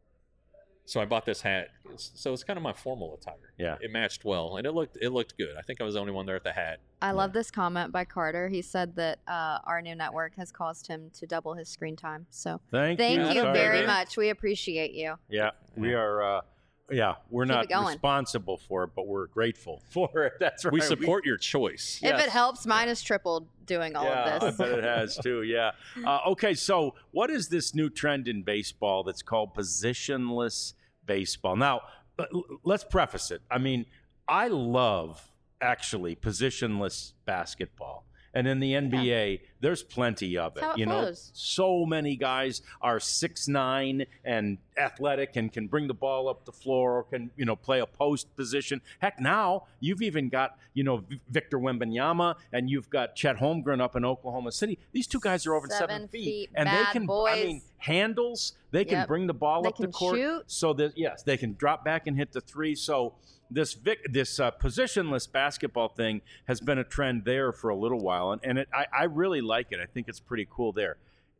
so I bought this hat. It's- So it's kind of my formal attire. Yeah. It matched well, and it looked it looked good. I think I was the only one there at the hat. I love this comment by Carter. He said that uh, our new network has caused him to double his screen time. So Thank, thank you. you Sorry. very man. much. We appreciate you. Yeah, we are. Uh, yeah, we're Keep not it going. responsible for it, but we're grateful for it. That's right. We support your choice. Yes. If it helps, mine is tripled doing all yeah, of this. I bet it has too. Yeah. Uh, okay, so what is this new trend in baseball that's called positionless baseball? Now, l- l- let's preface it. I mean, I love actually positionless basketball. And in the N B A, there's plenty of it. That's how it you know, flows. so many guys are six nine and athletic and can bring the ball up the floor or can, you know, play a post position. Heck, now you've even got, you know, V- Victor Wembanyama and you've got Chet Holmgren up in Oklahoma City. These two guys are over seven, Seven feet. feet, and they bad can, I boys. mean, handles, they can Yep. bring the ball They up the can court. shoot. So that, yes, they can drop back and hit the three. So this Vic, this uh, positionless basketball thing has been a trend there for a little while, and, and it, I, I really like it. I think it's pretty cool there.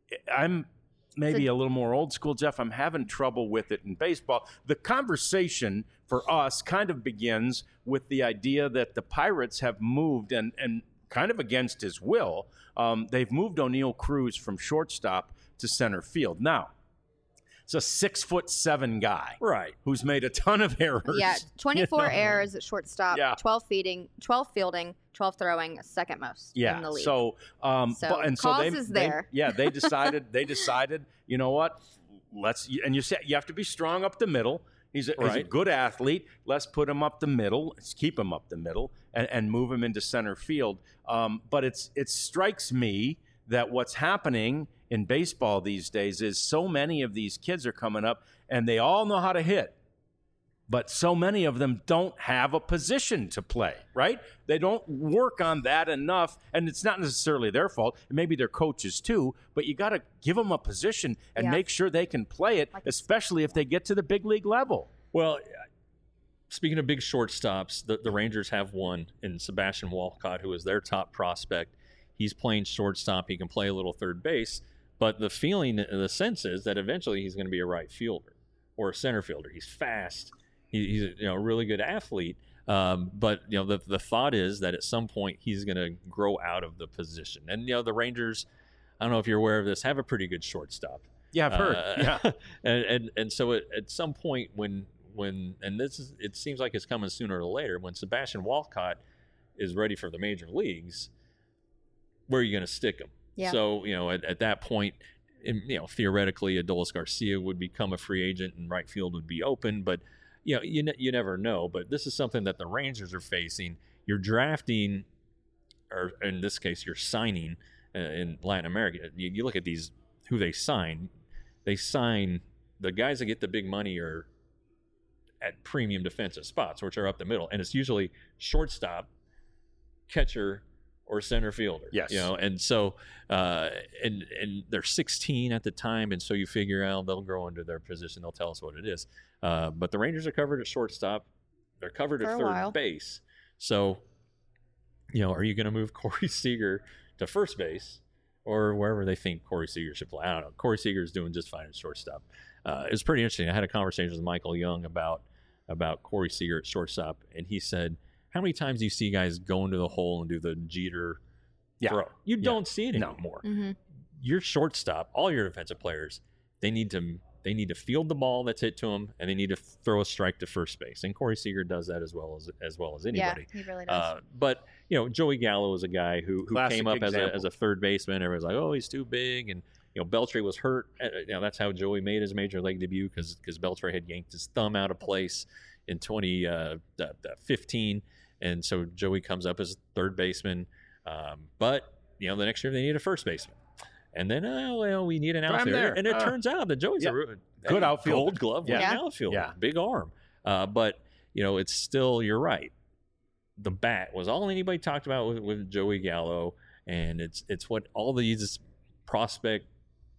I'm maybe So- a little more old school, Jeff. I'm having trouble with it in baseball. The conversation for us kind of begins with the idea that the Pirates have moved, and, and kind of against his will, um, they've moved O'Neal Cruz from shortstop to center field. Now, it's a six foot seven guy Right. who's made a ton of errors. Yeah, twenty-four You know? errors at shortstop, Yeah. twelve feeding, twelve fielding, twelve throwing, second most Yeah. in the league. So, um, So, but, and so cause they, is they- there. yeah, they decided. They decided. You know what? Let's and you say you have to be strong up the middle. He's a, he's a Right. good athlete. Let's put him up the middle. Let's keep him up the middle and, and move him into center field. Um, but it's it strikes me that what's happening in baseball these days is so many of these kids are coming up and they all know how to hit. but so many of them don't have a position to play, right? They don't work on that enough, and it's not necessarily their fault. Maybe their coaches too, but you got to give them a position and Yeah. make sure they can play it, Like- especially if they get to the big league level. Well, speaking of big shortstops, the, the Rangers have one in Sebastian Walcott, who is their top prospect. He's playing shortstop. He can play a little third base, but the feeling, the sense is that eventually he's going to be a right fielder or a center fielder. He's fast. He, he's a you know, really good athlete. Um, but you know, the the thought is that at some point he's going to grow out of the position. And you know, the Rangers, I don't know if you're aware of this, have a pretty good shortstop. Yeah, I've heard. Uh, yeah. and, and and so at, at some point when when and this is it seems like it's coming sooner or later, when Sebastian Walcott is ready for the major leagues, where are you going to stick him? Yeah. So you know, at, at that point, in, you know, theoretically, Adolis Garcia would become a free agent and right field would be open, but you know, you ne- you never know. But this is something that the Rangers are facing. You're drafting, or in this case, you're signing uh, in Latin America. You, you look at these who they sign. They sign the guys that get the big money are at premium defensive spots, which are up the middle, and it's usually shortstop, catcher, or center fielder. Yes. You know, and so uh, and and they're sixteen at the time, and so you figure out they'll grow into their position. They'll tell us what it is. Uh, but the Rangers are covered at shortstop. They're covered For at a third while. base. So, you know, are you going to move Corey Seager to first base or wherever they think Corey Seager should play? I don't know. Corey Seager is doing just fine at shortstop. Uh, it was pretty interesting. I had a conversation with Michael Young about about Corey Seager at shortstop, and he said, how many times do you see guys go into the hole and do the Jeter Yeah. throw? You Yeah. don't see it No. anymore. Mm-hmm. Your shortstop, all your defensive players, they need to they need to field the ball that's hit to them, and they need to throw a strike to first base. And Corey Seager does that as well as as well as anybody. Yeah, he really does. Uh, but you know, Joey Gallo is a guy who who Classic came up as a example. as a third baseman. Everyone's like, oh, he's too big, and you know, Beltre was hurt. Uh, You know, that's how Joey made his major league debut because because Beltre had yanked his thumb out of place in twenty fifteen, and so Joey comes up as third baseman. Um, but you know, the next year they need a first baseman. And then, oh, well, we need an I'm outfielder. there. And it Uh, turns out that Joey's yeah. a re- Good a outfielder. Gold glove winning Yeah. outfielder. Yeah. Big arm. Uh, but, you know, it's still, you're right. The bat was all anybody talked about with, with Joey Gallo. And it's it's what all these prospect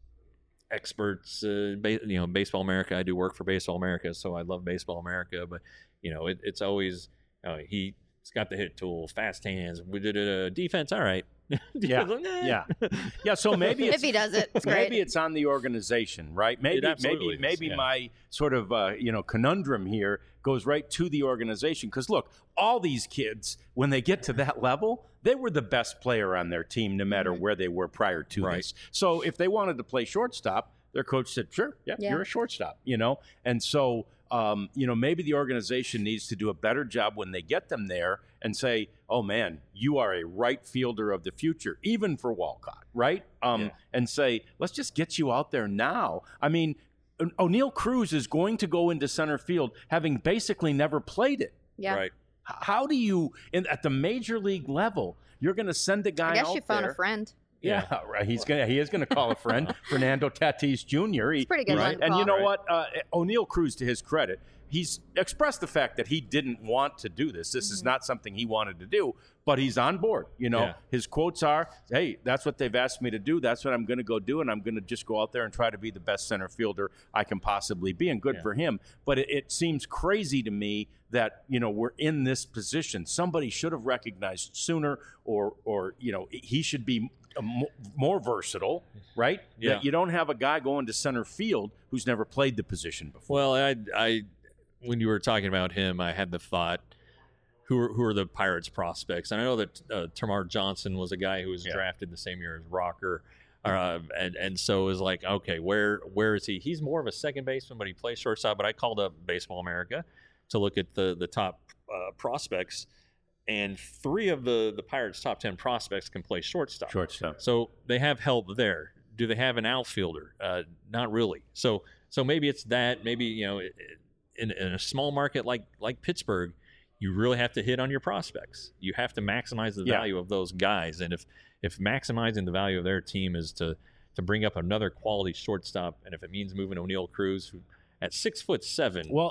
experts, uh, ba- you know, Baseball America. I do work for Baseball America, so I love Baseball America. But, you know, it, it's always, uh, he's got the hit tool, fast hands. We did a defense, all right. Yeah, Like, eh. yeah, yeah. So maybe it's, if he does it, it's great. maybe it's on the organization, right? Maybe, absolutely maybe, is, maybe yeah. my sort of uh, you know conundrum here goes right to the organization because look, all these kids when they get to that level, they were the best player on their team, no matter Mhm. where they were prior to Right. this. So if they wanted to play shortstop, their coach said, "Sure, yeah, Yeah. you're a shortstop," you know, and so. Um, you know, maybe the organization needs to do a better job when they get them there and say, oh, man, you are a right fielder of the future, even for Walcott, right? Um, Yeah. And say, let's just get you out there now. I mean, O- O'Neal Cruz is going to go into center field having basically never played it. yeah. Right. H- How do you, in, at the major league level, you're going to send a guy I guess out you phone there. a friend. Yeah, right. He's gonna. He is gonna call a friend, Fernando Tatis Junior He, It's pretty good he's- one to And you call. know what? Uh, O'Neal Cruz, to his credit, he's expressed the fact that he didn't want to do this. This is Mhm. not something he wanted to do, but he's on board. You know, Yeah. his quotes are, "Hey, that's what they've asked me to do. That's what I'm going to go do, and I'm going to just go out there and try to be the best center fielder I can possibly be." And good Yeah. for him. But it, it seems crazy to me that you know we're in this position. Somebody should have recognized sooner, or or you know he should be a mo- more versatile, right? Yeah. That you don't have a guy going to center field who's never played the position before. Well, I, I, when you were talking about him, I had the thought, who are, who are the Pirates prospects? And I know that uh, Tamar Johnson was a guy who was Yeah. drafted the same year as Rocker, uh, and and so it was like, okay, where where is he? He's more of a second baseman, but he plays shortstop. But I called up Baseball America to look at the the top uh, prospects, and three of the the Pirates' top ten prospects can play shortstop. Shortstop. So they have help there. Do they have an outfielder? Uh, not really. So so maybe it's that. Maybe you know, in, in a small market like like Pittsburgh, you really have to hit on your prospects. You have to maximize the Yeah. value of those guys. And if if maximizing the value of their team is to to bring up another quality shortstop, and if it means moving O'Neal Cruz, who at six foot seven, Well,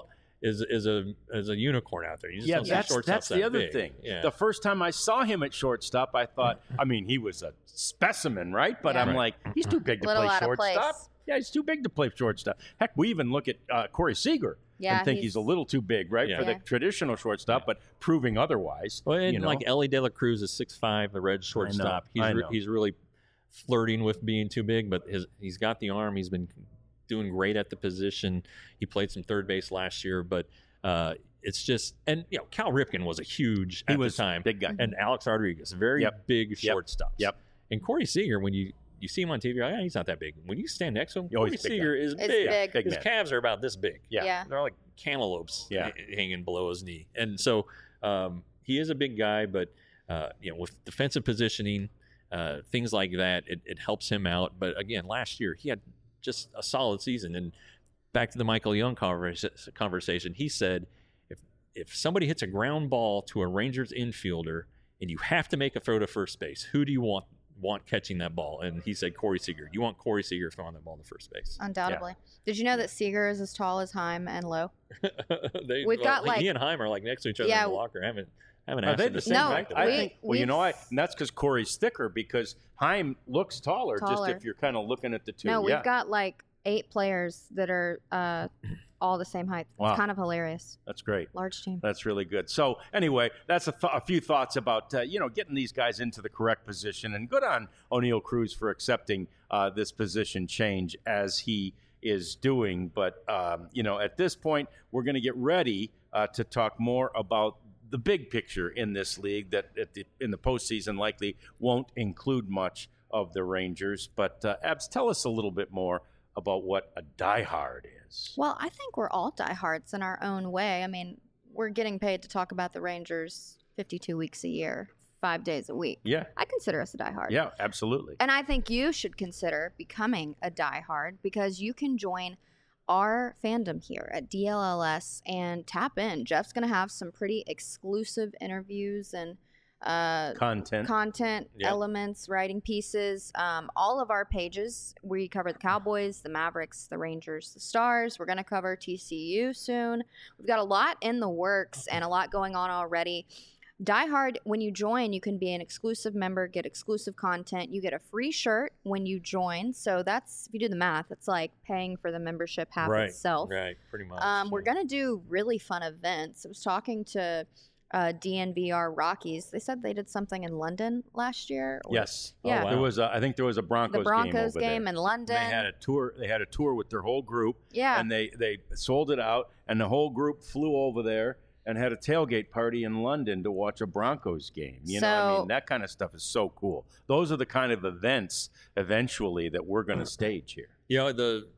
is is a is a unicorn out there. You just Yeah, don't see that's, shortstops that's that the other big. thing. Yeah. The first time I saw him at shortstop, I thought, I mean, he was a specimen, right? But Yeah. I'm Right. like, he's too big to Little play out of shortstop. place. Yeah, he's too big to play shortstop. Heck, we even look at uh, Corey Seager Yeah, and think he's, he's- a little too big, right, Yeah. for the Yeah. traditional shortstop, but proving otherwise. Well, and you know? like Ellie De La Cruz is six five, the red shortstop. He's I re- know. he's really flirting with being too big, but his he's got the arm. He's been doing great at the position. He played some third base last year, but uh, it's just and you know Cal Ripken was a huge he at was the time, big guy. and Alex Rodriguez, very Yep. big Yep. shortstops. Yep. And Corey Seager, when you you see him on T V, you're like, yeah, he's not that big. When you stand next to him, Oh, Corey he's big Seager is It's big. big. Big His man. calves are about this big. Yeah. Yeah. They're like cantaloupes Yeah. h- hanging below his knee. And so um, he is a big guy, but uh, you know, with defensive positioning, uh, things like that, it, it helps him out. But again, last year he had just a solid season. And back to the Michael Young conversa- conversation, he said, if if somebody hits a ground ball to a Rangers infielder and you have to make a throw to first base, who do you want want catching that ball? And he said Corey Seager. You want Corey Seager throwing that ball to first base. Undoubtedly. Did you know that Seager is as tall as Heim and low? they, We've well, got, he like- and Heim are like next to each other Yeah, in the locker. I haven't haven't Are asked they him the to same say No, height? back to I we- back. think. Well, you know, I we've- and that's because Corey's thicker. Because Heim looks taller, Taller. just if you're kind of looking at the two. No, we've yeah. got like eight players that are uh, all the same height. Wow. It's kind of hilarious. That's great. Large team. That's really good. So anyway, that's a, th- a few thoughts about uh, you know getting these guys into the correct position, and good on O'Neal Cruz for accepting uh, this position change as he is doing. But um, you know, at this point, we're going to get ready uh, to talk more about the big picture in this league that at the, in the postseason likely won't include much of the Rangers. But uh, Abs, tell us a little bit more about what a diehard is. Well, I think we're all diehards in our own way. I mean, we're getting paid to talk about the Rangers fifty-two weeks a year, five days a week. Yeah, I consider us a diehard. yeah, absolutely. And I think you should consider becoming a diehard because you can join our fandom here at D L L S and tap in. Jeff's going to have some pretty exclusive interviews and uh, Content. content Yep. elements, writing pieces. Um, all of our pages, we cover the Cowboys, the Mavericks, the Rangers, the Stars. We're going to cover T C U soon. We've got a lot in the works and a lot going on already. Die Hard, when you join, you can be an exclusive member, get exclusive content. You get a free shirt when you join. So that's, if you do the math, it's like paying for the membership half right, itself. right, pretty much. Um, we're yeah. going to do really fun events. I was talking to uh, D N V R Rockies. They said they did something in London last year. or- Yes. Yeah. Oh, wow. There was a, I think there was a Broncos, The Broncos game, over game there. in London. They had a tour. They had a tour with their whole group, yeah. and they they sold it out, and the whole group flew over there and had a tailgate party in London to watch a Broncos game. You know, I So- mean, that kind of stuff is so cool. Those are the kind of events eventually that we're going to stage here. You know, the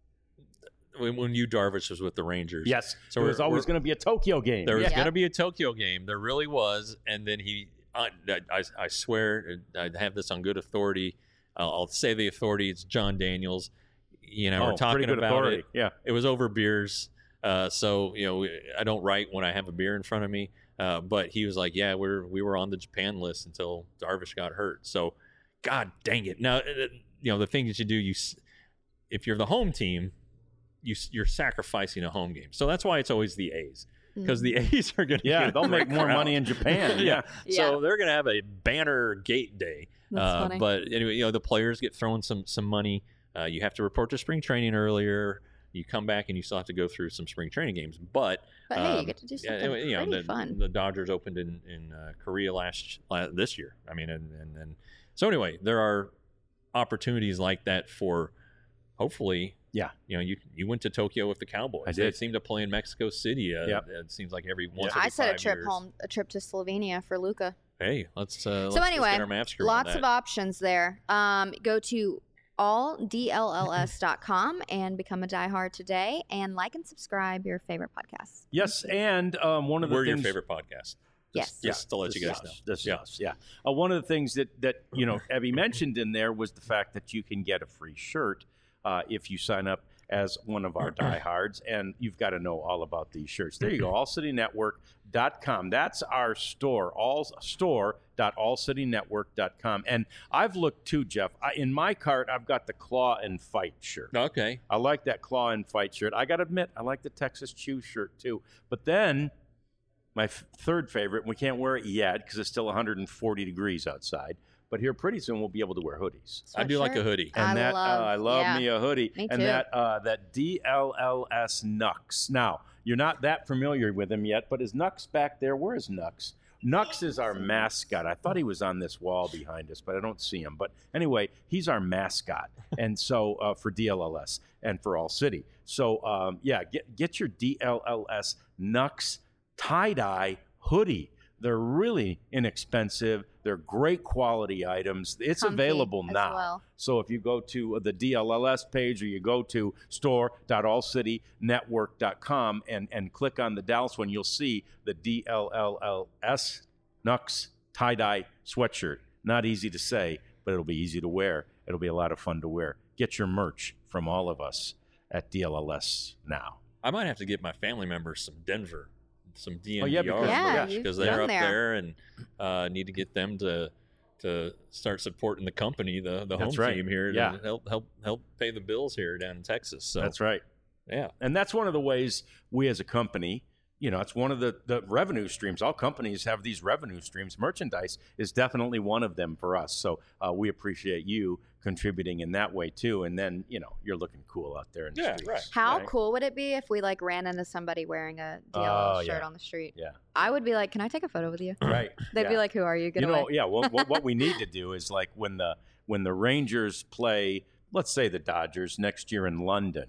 when, when you Darvish was with the Rangers. Yes. So there was we're- always we're- going to be a Tokyo game. There was Yeah. going to be a Tokyo game. There really was. And then he, I, I, I swear, I have this on good authority. I'll, I'll say the authority. It's John Daniels. You know, Oh, we're talking pretty good about authority. it. Yeah. It was over beers. Uh, so, you know, I don't write when I have a beer in front of me. Uh, but he was like, yeah, we're, we were on the Japan list until Darvish got hurt. So, God dang it. Now, uh, you know, the thing that you do, you, s- if you're the home team, you, s- you're sacrificing a home game. So that's why it's always the A's. Because the A's are going to Yeah, they'll make more money in Japan. yeah. Yeah. So Yeah. they're going to have a banner gate day. That's Uh, funny. but anyway, you know, the players get thrown some some money. Uh, you have to report to spring training earlier. You come back and you still have to go through some spring training games. But But hey, you um, get to do yeah, something anyway, you know, pretty the, fun. the Dodgers opened in in uh, Korea last, last this year. I mean, and, and and so anyway, there are opportunities like that for hopefully. Yeah. You know, you you went to Tokyo with the Cowboys. I They did. seem to play in Mexico City. Uh, Yep. It seems like every once. Yeah. Every I said a five trip years. home, a trip to Slovenia for Luca. Hey, let's uh, let's, So let's anyway, get our maps screwed on lots that. of options there. Um, go to all d l l s dot com and become a diehard today, and like and subscribe your favorite podcast. Yes, and um, one of the We're things. your favorite podcast. Yes. Just to let you this guys is know. us. This Yeah. is us, yeah. Uh, one of the things that, that you know, Abby mentioned in there was the fact that you can get a free shirt uh, if you sign up as one of our diehards, and you've got to know all about these shirts. There you go, all city network dot com. That's our store, all store dot all city network dot com. And I've looked too, Jeff. I, in my cart, I've got the Claw and Fight shirt. Okay. I like that Claw and Fight shirt. I got to admit, I like the Texas Chew shirt too. But then my f- third favorite, we can't wear it yet because it's still one hundred forty degrees outside. But here pretty soon we'll be able to wear hoodies. I do like a hoodie. And I that love- uh, I love yeah. me a hoodie. Me and too. that uh, that D L L S Nux. Now, you're not that familiar with him yet, but is Nux back there? Where is Nux? Nux is our mascot. I thought he was on this wall behind us, but I don't see him. But anyway, he's our mascot. And so uh, for D L L S and for All City. So um, yeah, get get your D L L S Nux tie-dye hoodie. They're really inexpensive. They're great quality items. It's Comfy available as now. well. So if you go to the D L L S page or you go to store dot all city network dot com and, and click on the Dallas one, you'll see the D L L L S Nux tie-dye sweatshirt. Not easy to say, but it'll be easy to wear. It'll be a lot of fun to wear. Get your merch from all of us at D L L S now. I might have to get my family members some Denver, some D N V R Oh, yeah, because- Yeah, Yeah, you've because been they're up there. there and uh, need to get them to to start supporting the company, the the home That's right. team here, Yeah. to help help help pay the bills here down in Texas. So That's right. yeah, And that's one of the ways we as a company, you know, it's one of the, the revenue streams. All companies have these revenue streams. Merchandise is definitely one of them for us. So uh, we appreciate you contributing in that way too. And then, you know, you're looking cool out there in the Yeah, streets. right. How Right? cool would it be if we like ran into somebody wearing a D L L Oh, shirt yeah. on the street? Yeah. I would be like, "Can I take a photo with you?" Right. They'd Yeah. be like, "Who are you? Get you away!" know, yeah. Well, what, what we need to do is like when the when the Rangers play, let's say the Dodgers next year in London,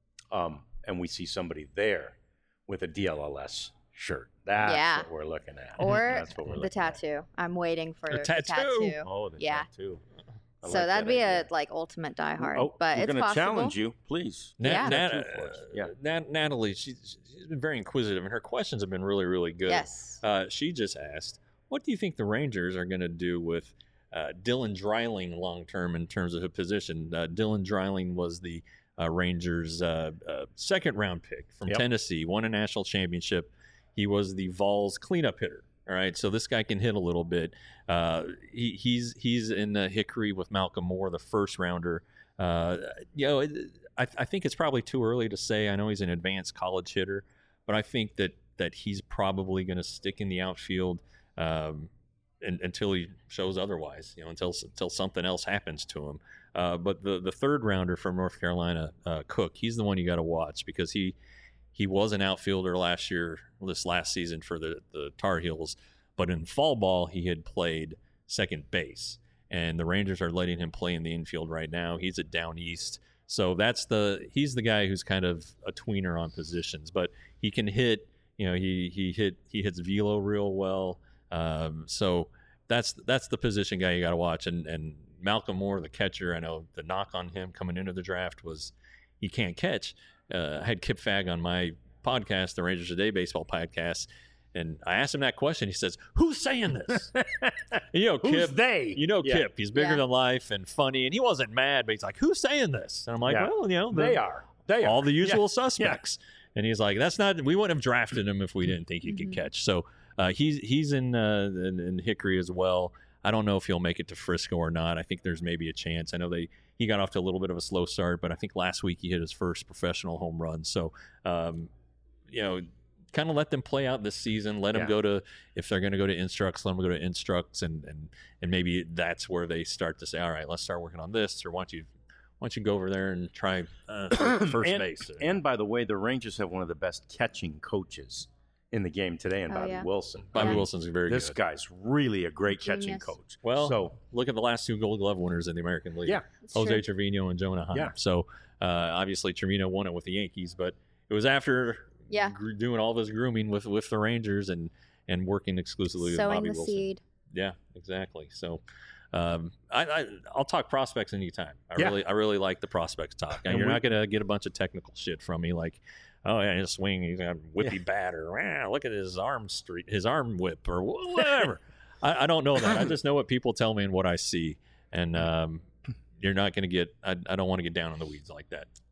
um, and we see somebody there with a D L L S shirt. That's Yeah. what we're looking at. Or That's what we're the looking at. tattoo. I'm waiting for A the tattoo. tattoo. Oh, the Yeah. tattoo. I So like that'd that be idea. a like ultimate diehard, Oh, but we're it's gonna possible. challenge you, please. Nat, Yeah. Nat, Tattoo for us. uh, Yeah. Nat, Natalie, she's she's been very inquisitive, and her questions have been really really good. Yes. Uh, she just asked, "What do you think the Rangers are going to do with uh, Dylan Dreiling long term in terms of a position?" Uh, Dylan Dreiling was the uh, Rangers' uh, uh, second round pick from Yep. Tennessee, won a national championship. He was the Vols cleanup hitter. All right, so this guy can hit a little bit. Uh, he, he's he's in the Hickory with Malcolm Moore, the first rounder. Uh, you know, it, I, I think it's probably too early to say. I know he's an advanced college hitter, but I think that that he's probably going to stick in the outfield um, in, until he shows otherwise. You know, until until something else happens to him. Uh, but the the third rounder from North Carolina, uh, Cook, he's the one you got to watch because he he was an outfielder last year, this last season for the the Tar Heels. But in fall ball, he had played second base, and the Rangers are letting him play in the infield right now. He's at down east, so that's the he's the guy who's kind of a tweener on positions, but he can hit. You know, he he hit he hits velo real well. Um, so that's that's the position guy you got to watch. And and Malcolm Moore, the catcher, I know the knock on him coming into the draft was he can't catch. Uh, I had Kip Fagg on my podcast, the Rangers Today baseball podcast. And I asked him that question. He says, "Who's saying this?" you know, Who's Kip. they? You know, Yeah. Kip. He's bigger Yeah. than life and funny, and he wasn't mad, but he's like, "Who's saying this?" And I'm like, Yeah. "Well, you know, the, They are. They are. all the Yeah. usual suspects." And he's like, "That's not. We wouldn't have drafted him if we didn't think he Mhm. could catch." So uh, he's he's in, uh, in in Hickory as well. I don't know if he'll make it to Frisco or not. I think there's maybe a chance. I know they he got off to a little bit of a slow start, but I think last week he hit his first professional home run. So, um, you know. Kind of let them play out this season. Let them Yeah. go to if they're going to go to Instructs, let them go to Instructs, and and and maybe that's where they start to say, all right, let's start working on this, or why don't you why don't you go over there and try uh, first and, base? And by the way, the Rangers have one of the best catching coaches in the game today, and Oh, Bobby yeah. Wilson. Bobby Yeah. Wilson's very This good. guy's really a great catching Genius. coach. Well, so look at the last two Gold Glove winners in the American League. yeah, It's Jose true. Trevino and Jonah Heim. Yeah. So uh, obviously Trevino won it with the Yankees, but it was after Yeah. gr- doing all this grooming with, with the Rangers and, and working exclusively Sowing with Bobby the Wilson. seed. Yeah, exactly. So um, I, I, I'll talk prospects anytime. I Yeah. really I really like the prospects talk. And And you're we- not going to get a bunch of technical shit from me like, oh, yeah, his swing, he's got a whippy Yeah. bat, or wow, look at his arm street, his arm whip, or wh- whatever. I, I don't know that. I just know what people tell me and what I see. And um, you're not going to get, I, I don't want to get down in the weeds like that.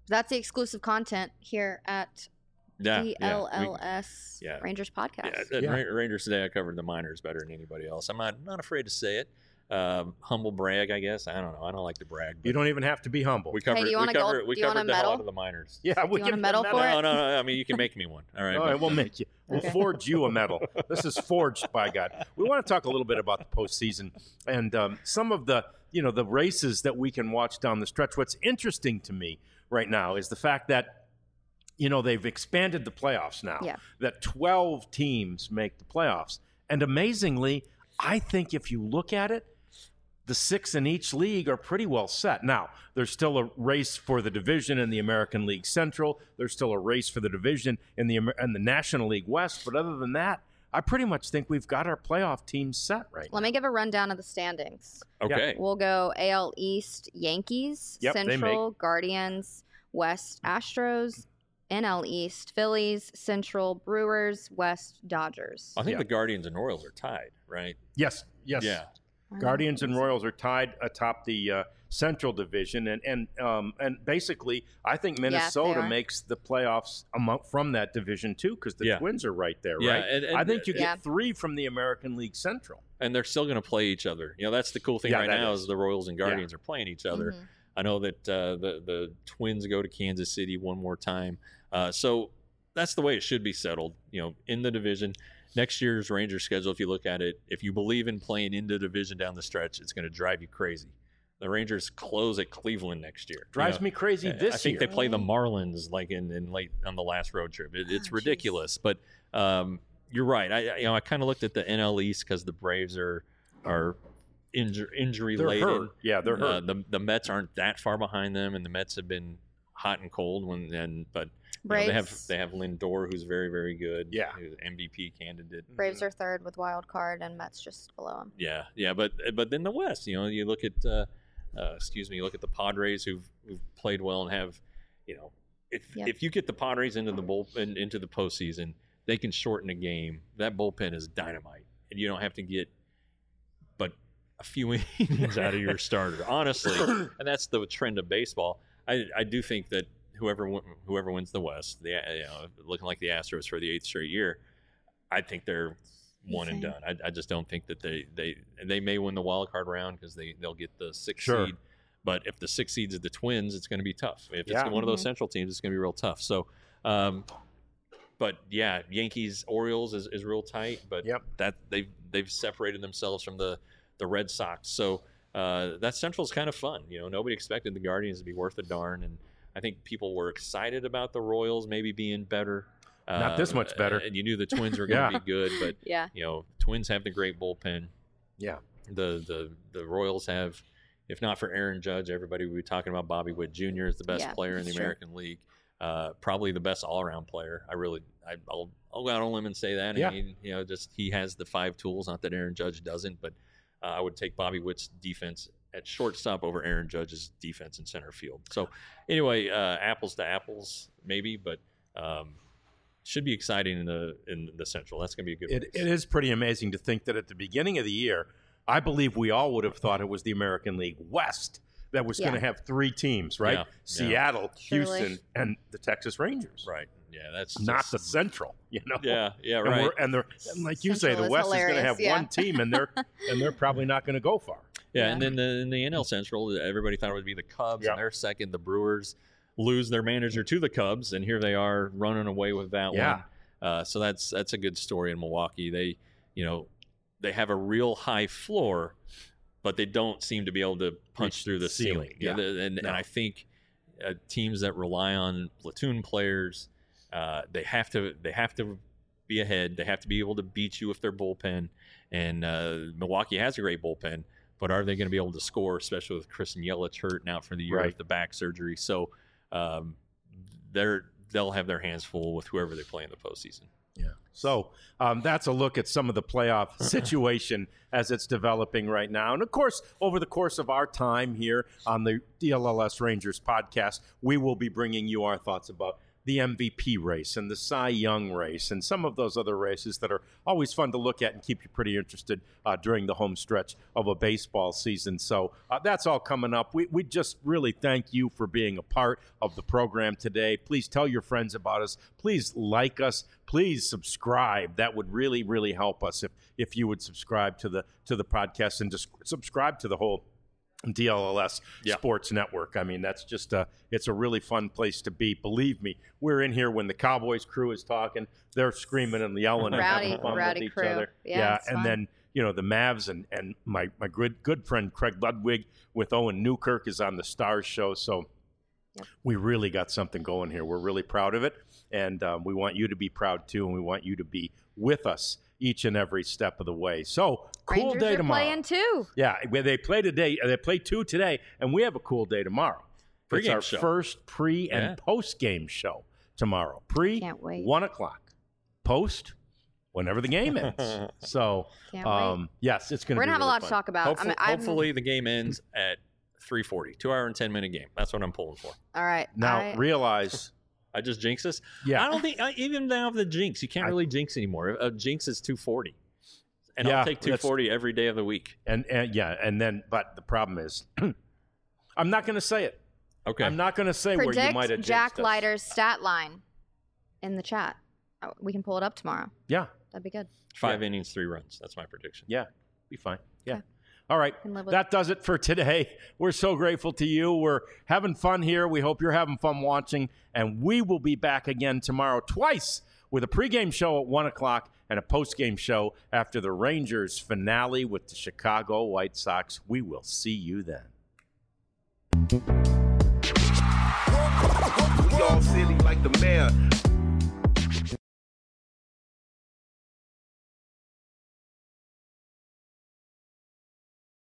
That's the exclusive content here at Yeah, D yeah, L we- L S yeah. Rangers podcast. Yeah, at Yeah. Ra- Rangers today, I covered the minors better than anybody else. I'm not not afraid to say it. Um, humble brag, I guess. I don't know. I don't like to brag. But You don't even have to be humble. we covered. do you we want a gold- covered, we do you want covered a the hell medal? out of the minors. yeah, we you want give a you medal for No, it? no, no. I mean, you can make me one. All right. All but- right, we'll make you. We'll forge you a medal. This is forged by God. We want to talk a little bit about the postseason and um, some of the, you know, the races that we can watch down the stretch. What's interesting to me right now is the fact that, you know, they've expanded the playoffs now. Yeah. That twelve teams make the playoffs, and amazingly, I think if you look at it, the six in each league are pretty well set. Now, there's still a race for the division in the American League Central. There's still a race for the division in the Amer- in the National League West. But other than that, I pretty much think we've got our playoff teams set right Let now. me give a rundown of the standings. Okay. We'll go A L East Yankees, Yep, they Central Guardians, West Astros, N L East Phillies, Central Brewers, West Dodgers. I think Yeah. the Guardians and Royals are tied, right? Yes, yes. Yeah. Guardians and Royals are tied atop the uh, Central Division, and and um, and basically, I think Minnesota are. makes the playoffs among, from that division too, because the Yeah. Twins are right there, Yeah, right? and- and- I think you Yeah. get three from the American League Central. And they're still going to play each other. You know, that's the cool thing Yeah, right that now is. is the Royals and Guardians are playing each other. Mhm. I know that uh, the the Twins go to Kansas City one more time, uh, so that's the way it should be settled. You know, in the division. Next year's Rangers schedule, if you look at it, if you believe in playing in the division down the stretch, it's going to drive you crazy. The Rangers close at Cleveland next year. Drives You know, me crazy this I think year. they play the Marlins like in, in late on the last road trip. It, it's Oh, ridiculous, but um, you're right. I I- you know I kind of looked at the N L East because the Braves are are injur- injury They're laden. hurt. Yeah, they're Uh, hurt. the the Mets aren't that far behind them, and the Mets have been hot and cold when and but you know, Braves, they have they have Lindor, who's very very good. Yeah. who's an M V P candidate. Braves are third with wild card, and Mets just below them. Yeah, yeah, but but then the West, you know, you look at uh, uh, excuse me, you look at the Padres who've who've played well and have, you know, if Yep. if you get the Padres into the bull in, into the postseason, they can shorten a game. That bullpen is dynamite, and you don't have to get but a few innings out of your starter, honestly. And that's the trend of baseball. I I do think that whoever win- whoever wins the West, the you know, looking like the Astros for the eighth straight year, I think they're one and Same. done. I, I just don't think that they they they may win the wild card round because they they'll get the sixth Sure. seed. But if the six seeds are the Twins, it's going to be tough. If Yeah. it's one of those Mhm. Central teams, it's going to be real tough. So, um, but yeah, Yankees Orioles is, is real tight. But Yep. that they've they've separated themselves from the the Red Sox. So uh, that Central is kind of fun. You know, nobody expected the Guardians to be worth a darn, and I think people were excited about the Royals maybe being better. Not this much better. And you knew the Twins were going to Yeah. be good, but Yeah. you know, Twins have the great bullpen. Yeah. The the the Royals have, if not for Aaron Judge, everybody would be talking about Bobby Witt Junior is the best Yeah, player in the that's true. American League. Uh, probably the best all-around player. I really, I, I'll, I'll go out on a limb and say that. Yeah. I mean, you know, just he has the five tools. Not that Aaron Judge doesn't, but uh, I would take Bobby Witt's defense at shortstop over Aaron Judge's defense in center field. So, anyway, uh, apples to apples, maybe, but um, should be exciting in the in the Central. That's going to be a good. It, race. it is pretty amazing to think that at the beginning of the year, I believe we all would have thought it was the American League West that was going Yeah. to have three teams, right? Yeah, yeah. Seattle, Surely. Houston, and the Texas Rangers. Right. Yeah, that's Not just- the Central, you know. Yeah, yeah, And, right. we're, and they're and like you say, Central the is West is going to hilarious, have yeah. one team, and they're and they're probably not going to go far. Yeah, Yeah. and then the, in the N L Central, everybody thought it would be the Cubs, Yeah. and they're second. The Brewers lose their manager to the Cubs, and here they are running away with that Yeah. one. Uh, so that's that's a good story in Milwaukee. They, you know, they have a real high floor, but they don't seem to be able to punch Reach through the the ceiling, ceiling. yeah. the- and, No. and I think uh, teams that rely on platoon players, uh, they have to they have to be ahead. They have to be able to beat you with their bullpen. And uh, Milwaukee has a great bullpen, but are they going to be able to score, especially with Chris Yelich hurt and out for the year Right. with the back surgery? So um, they're they'll have their hands full with whoever they play in the postseason. Yeah. So um, that's a look at some of the playoff situation as it's developing right now. And of course, over the course of our time here on the D L L S Rangers podcast, we will be bringing you our thoughts about the M V P race and the Cy Young race and some of those other races that are always fun to look at and keep you pretty interested uh, during the home stretch of a baseball season. So uh, that's all coming up. We, we just really thank you for being a part of the program today. Please tell your friends about us. Please like us. Please subscribe. That would really, really help us if if you would subscribe to the to the podcast and just subscribe to the whole D L L S yeah. Sports Network. I mean, that's just a, it's a really fun place to be. Believe me, we're in here when the Cowboys crew is talking. They're screaming and yelling and Rowdy, having fun rowdy with each crew. other. Yeah, it's and fun. then, you know, the Mavs and, and my, my good, good friend Craig Ludwig with Owen Newkirk is on the Stars show. So Yep. we really got something going here. We're really proud of it. And um, we want you to be proud, too. And we want you to be with us each and every step of the way. So, cool Rangers day are tomorrow. playing too. Yeah, where they play today. They play two today, and we have a cool day tomorrow. It's Pre-game our show. first pre and Yeah. post game show tomorrow. Pre, Can't wait. one o'clock. Post, whenever the game ends. So, Can't wait. um, yes, it's going to We're be gonna have really a lot fun. to talk about. Hopefully, I'm, I'm, hopefully the game ends at three forty. Two hour and ten minute game. That's what I'm pulling for. All right. Now, I, realize, I just jinx this. yeah, I don't think I, even now the jinx. You can't I- really jinx anymore. A jinx is two forty, and Yeah, I'll take two forty every day of the week. and, and yeah, and then, but the problem is, I'm not going to say it. Okay. I'm not going to say where you might predict have Jack jinxed us. Leiter's stat line in the chat. Oh, we can pull it up tomorrow. Yeah, That'd be good. Five innings, three runs. That's my prediction. yeah, be fine. Yeah. Okay. All right. Can live with That does it for today. We're so grateful to you. We're having fun here. We hope you're having fun watching. And we will be back again tomorrow twice with a pregame show at one o'clock and a postgame show after the Rangers finale with the Chicago White Sox. We will see you then. We all silly like the mayor.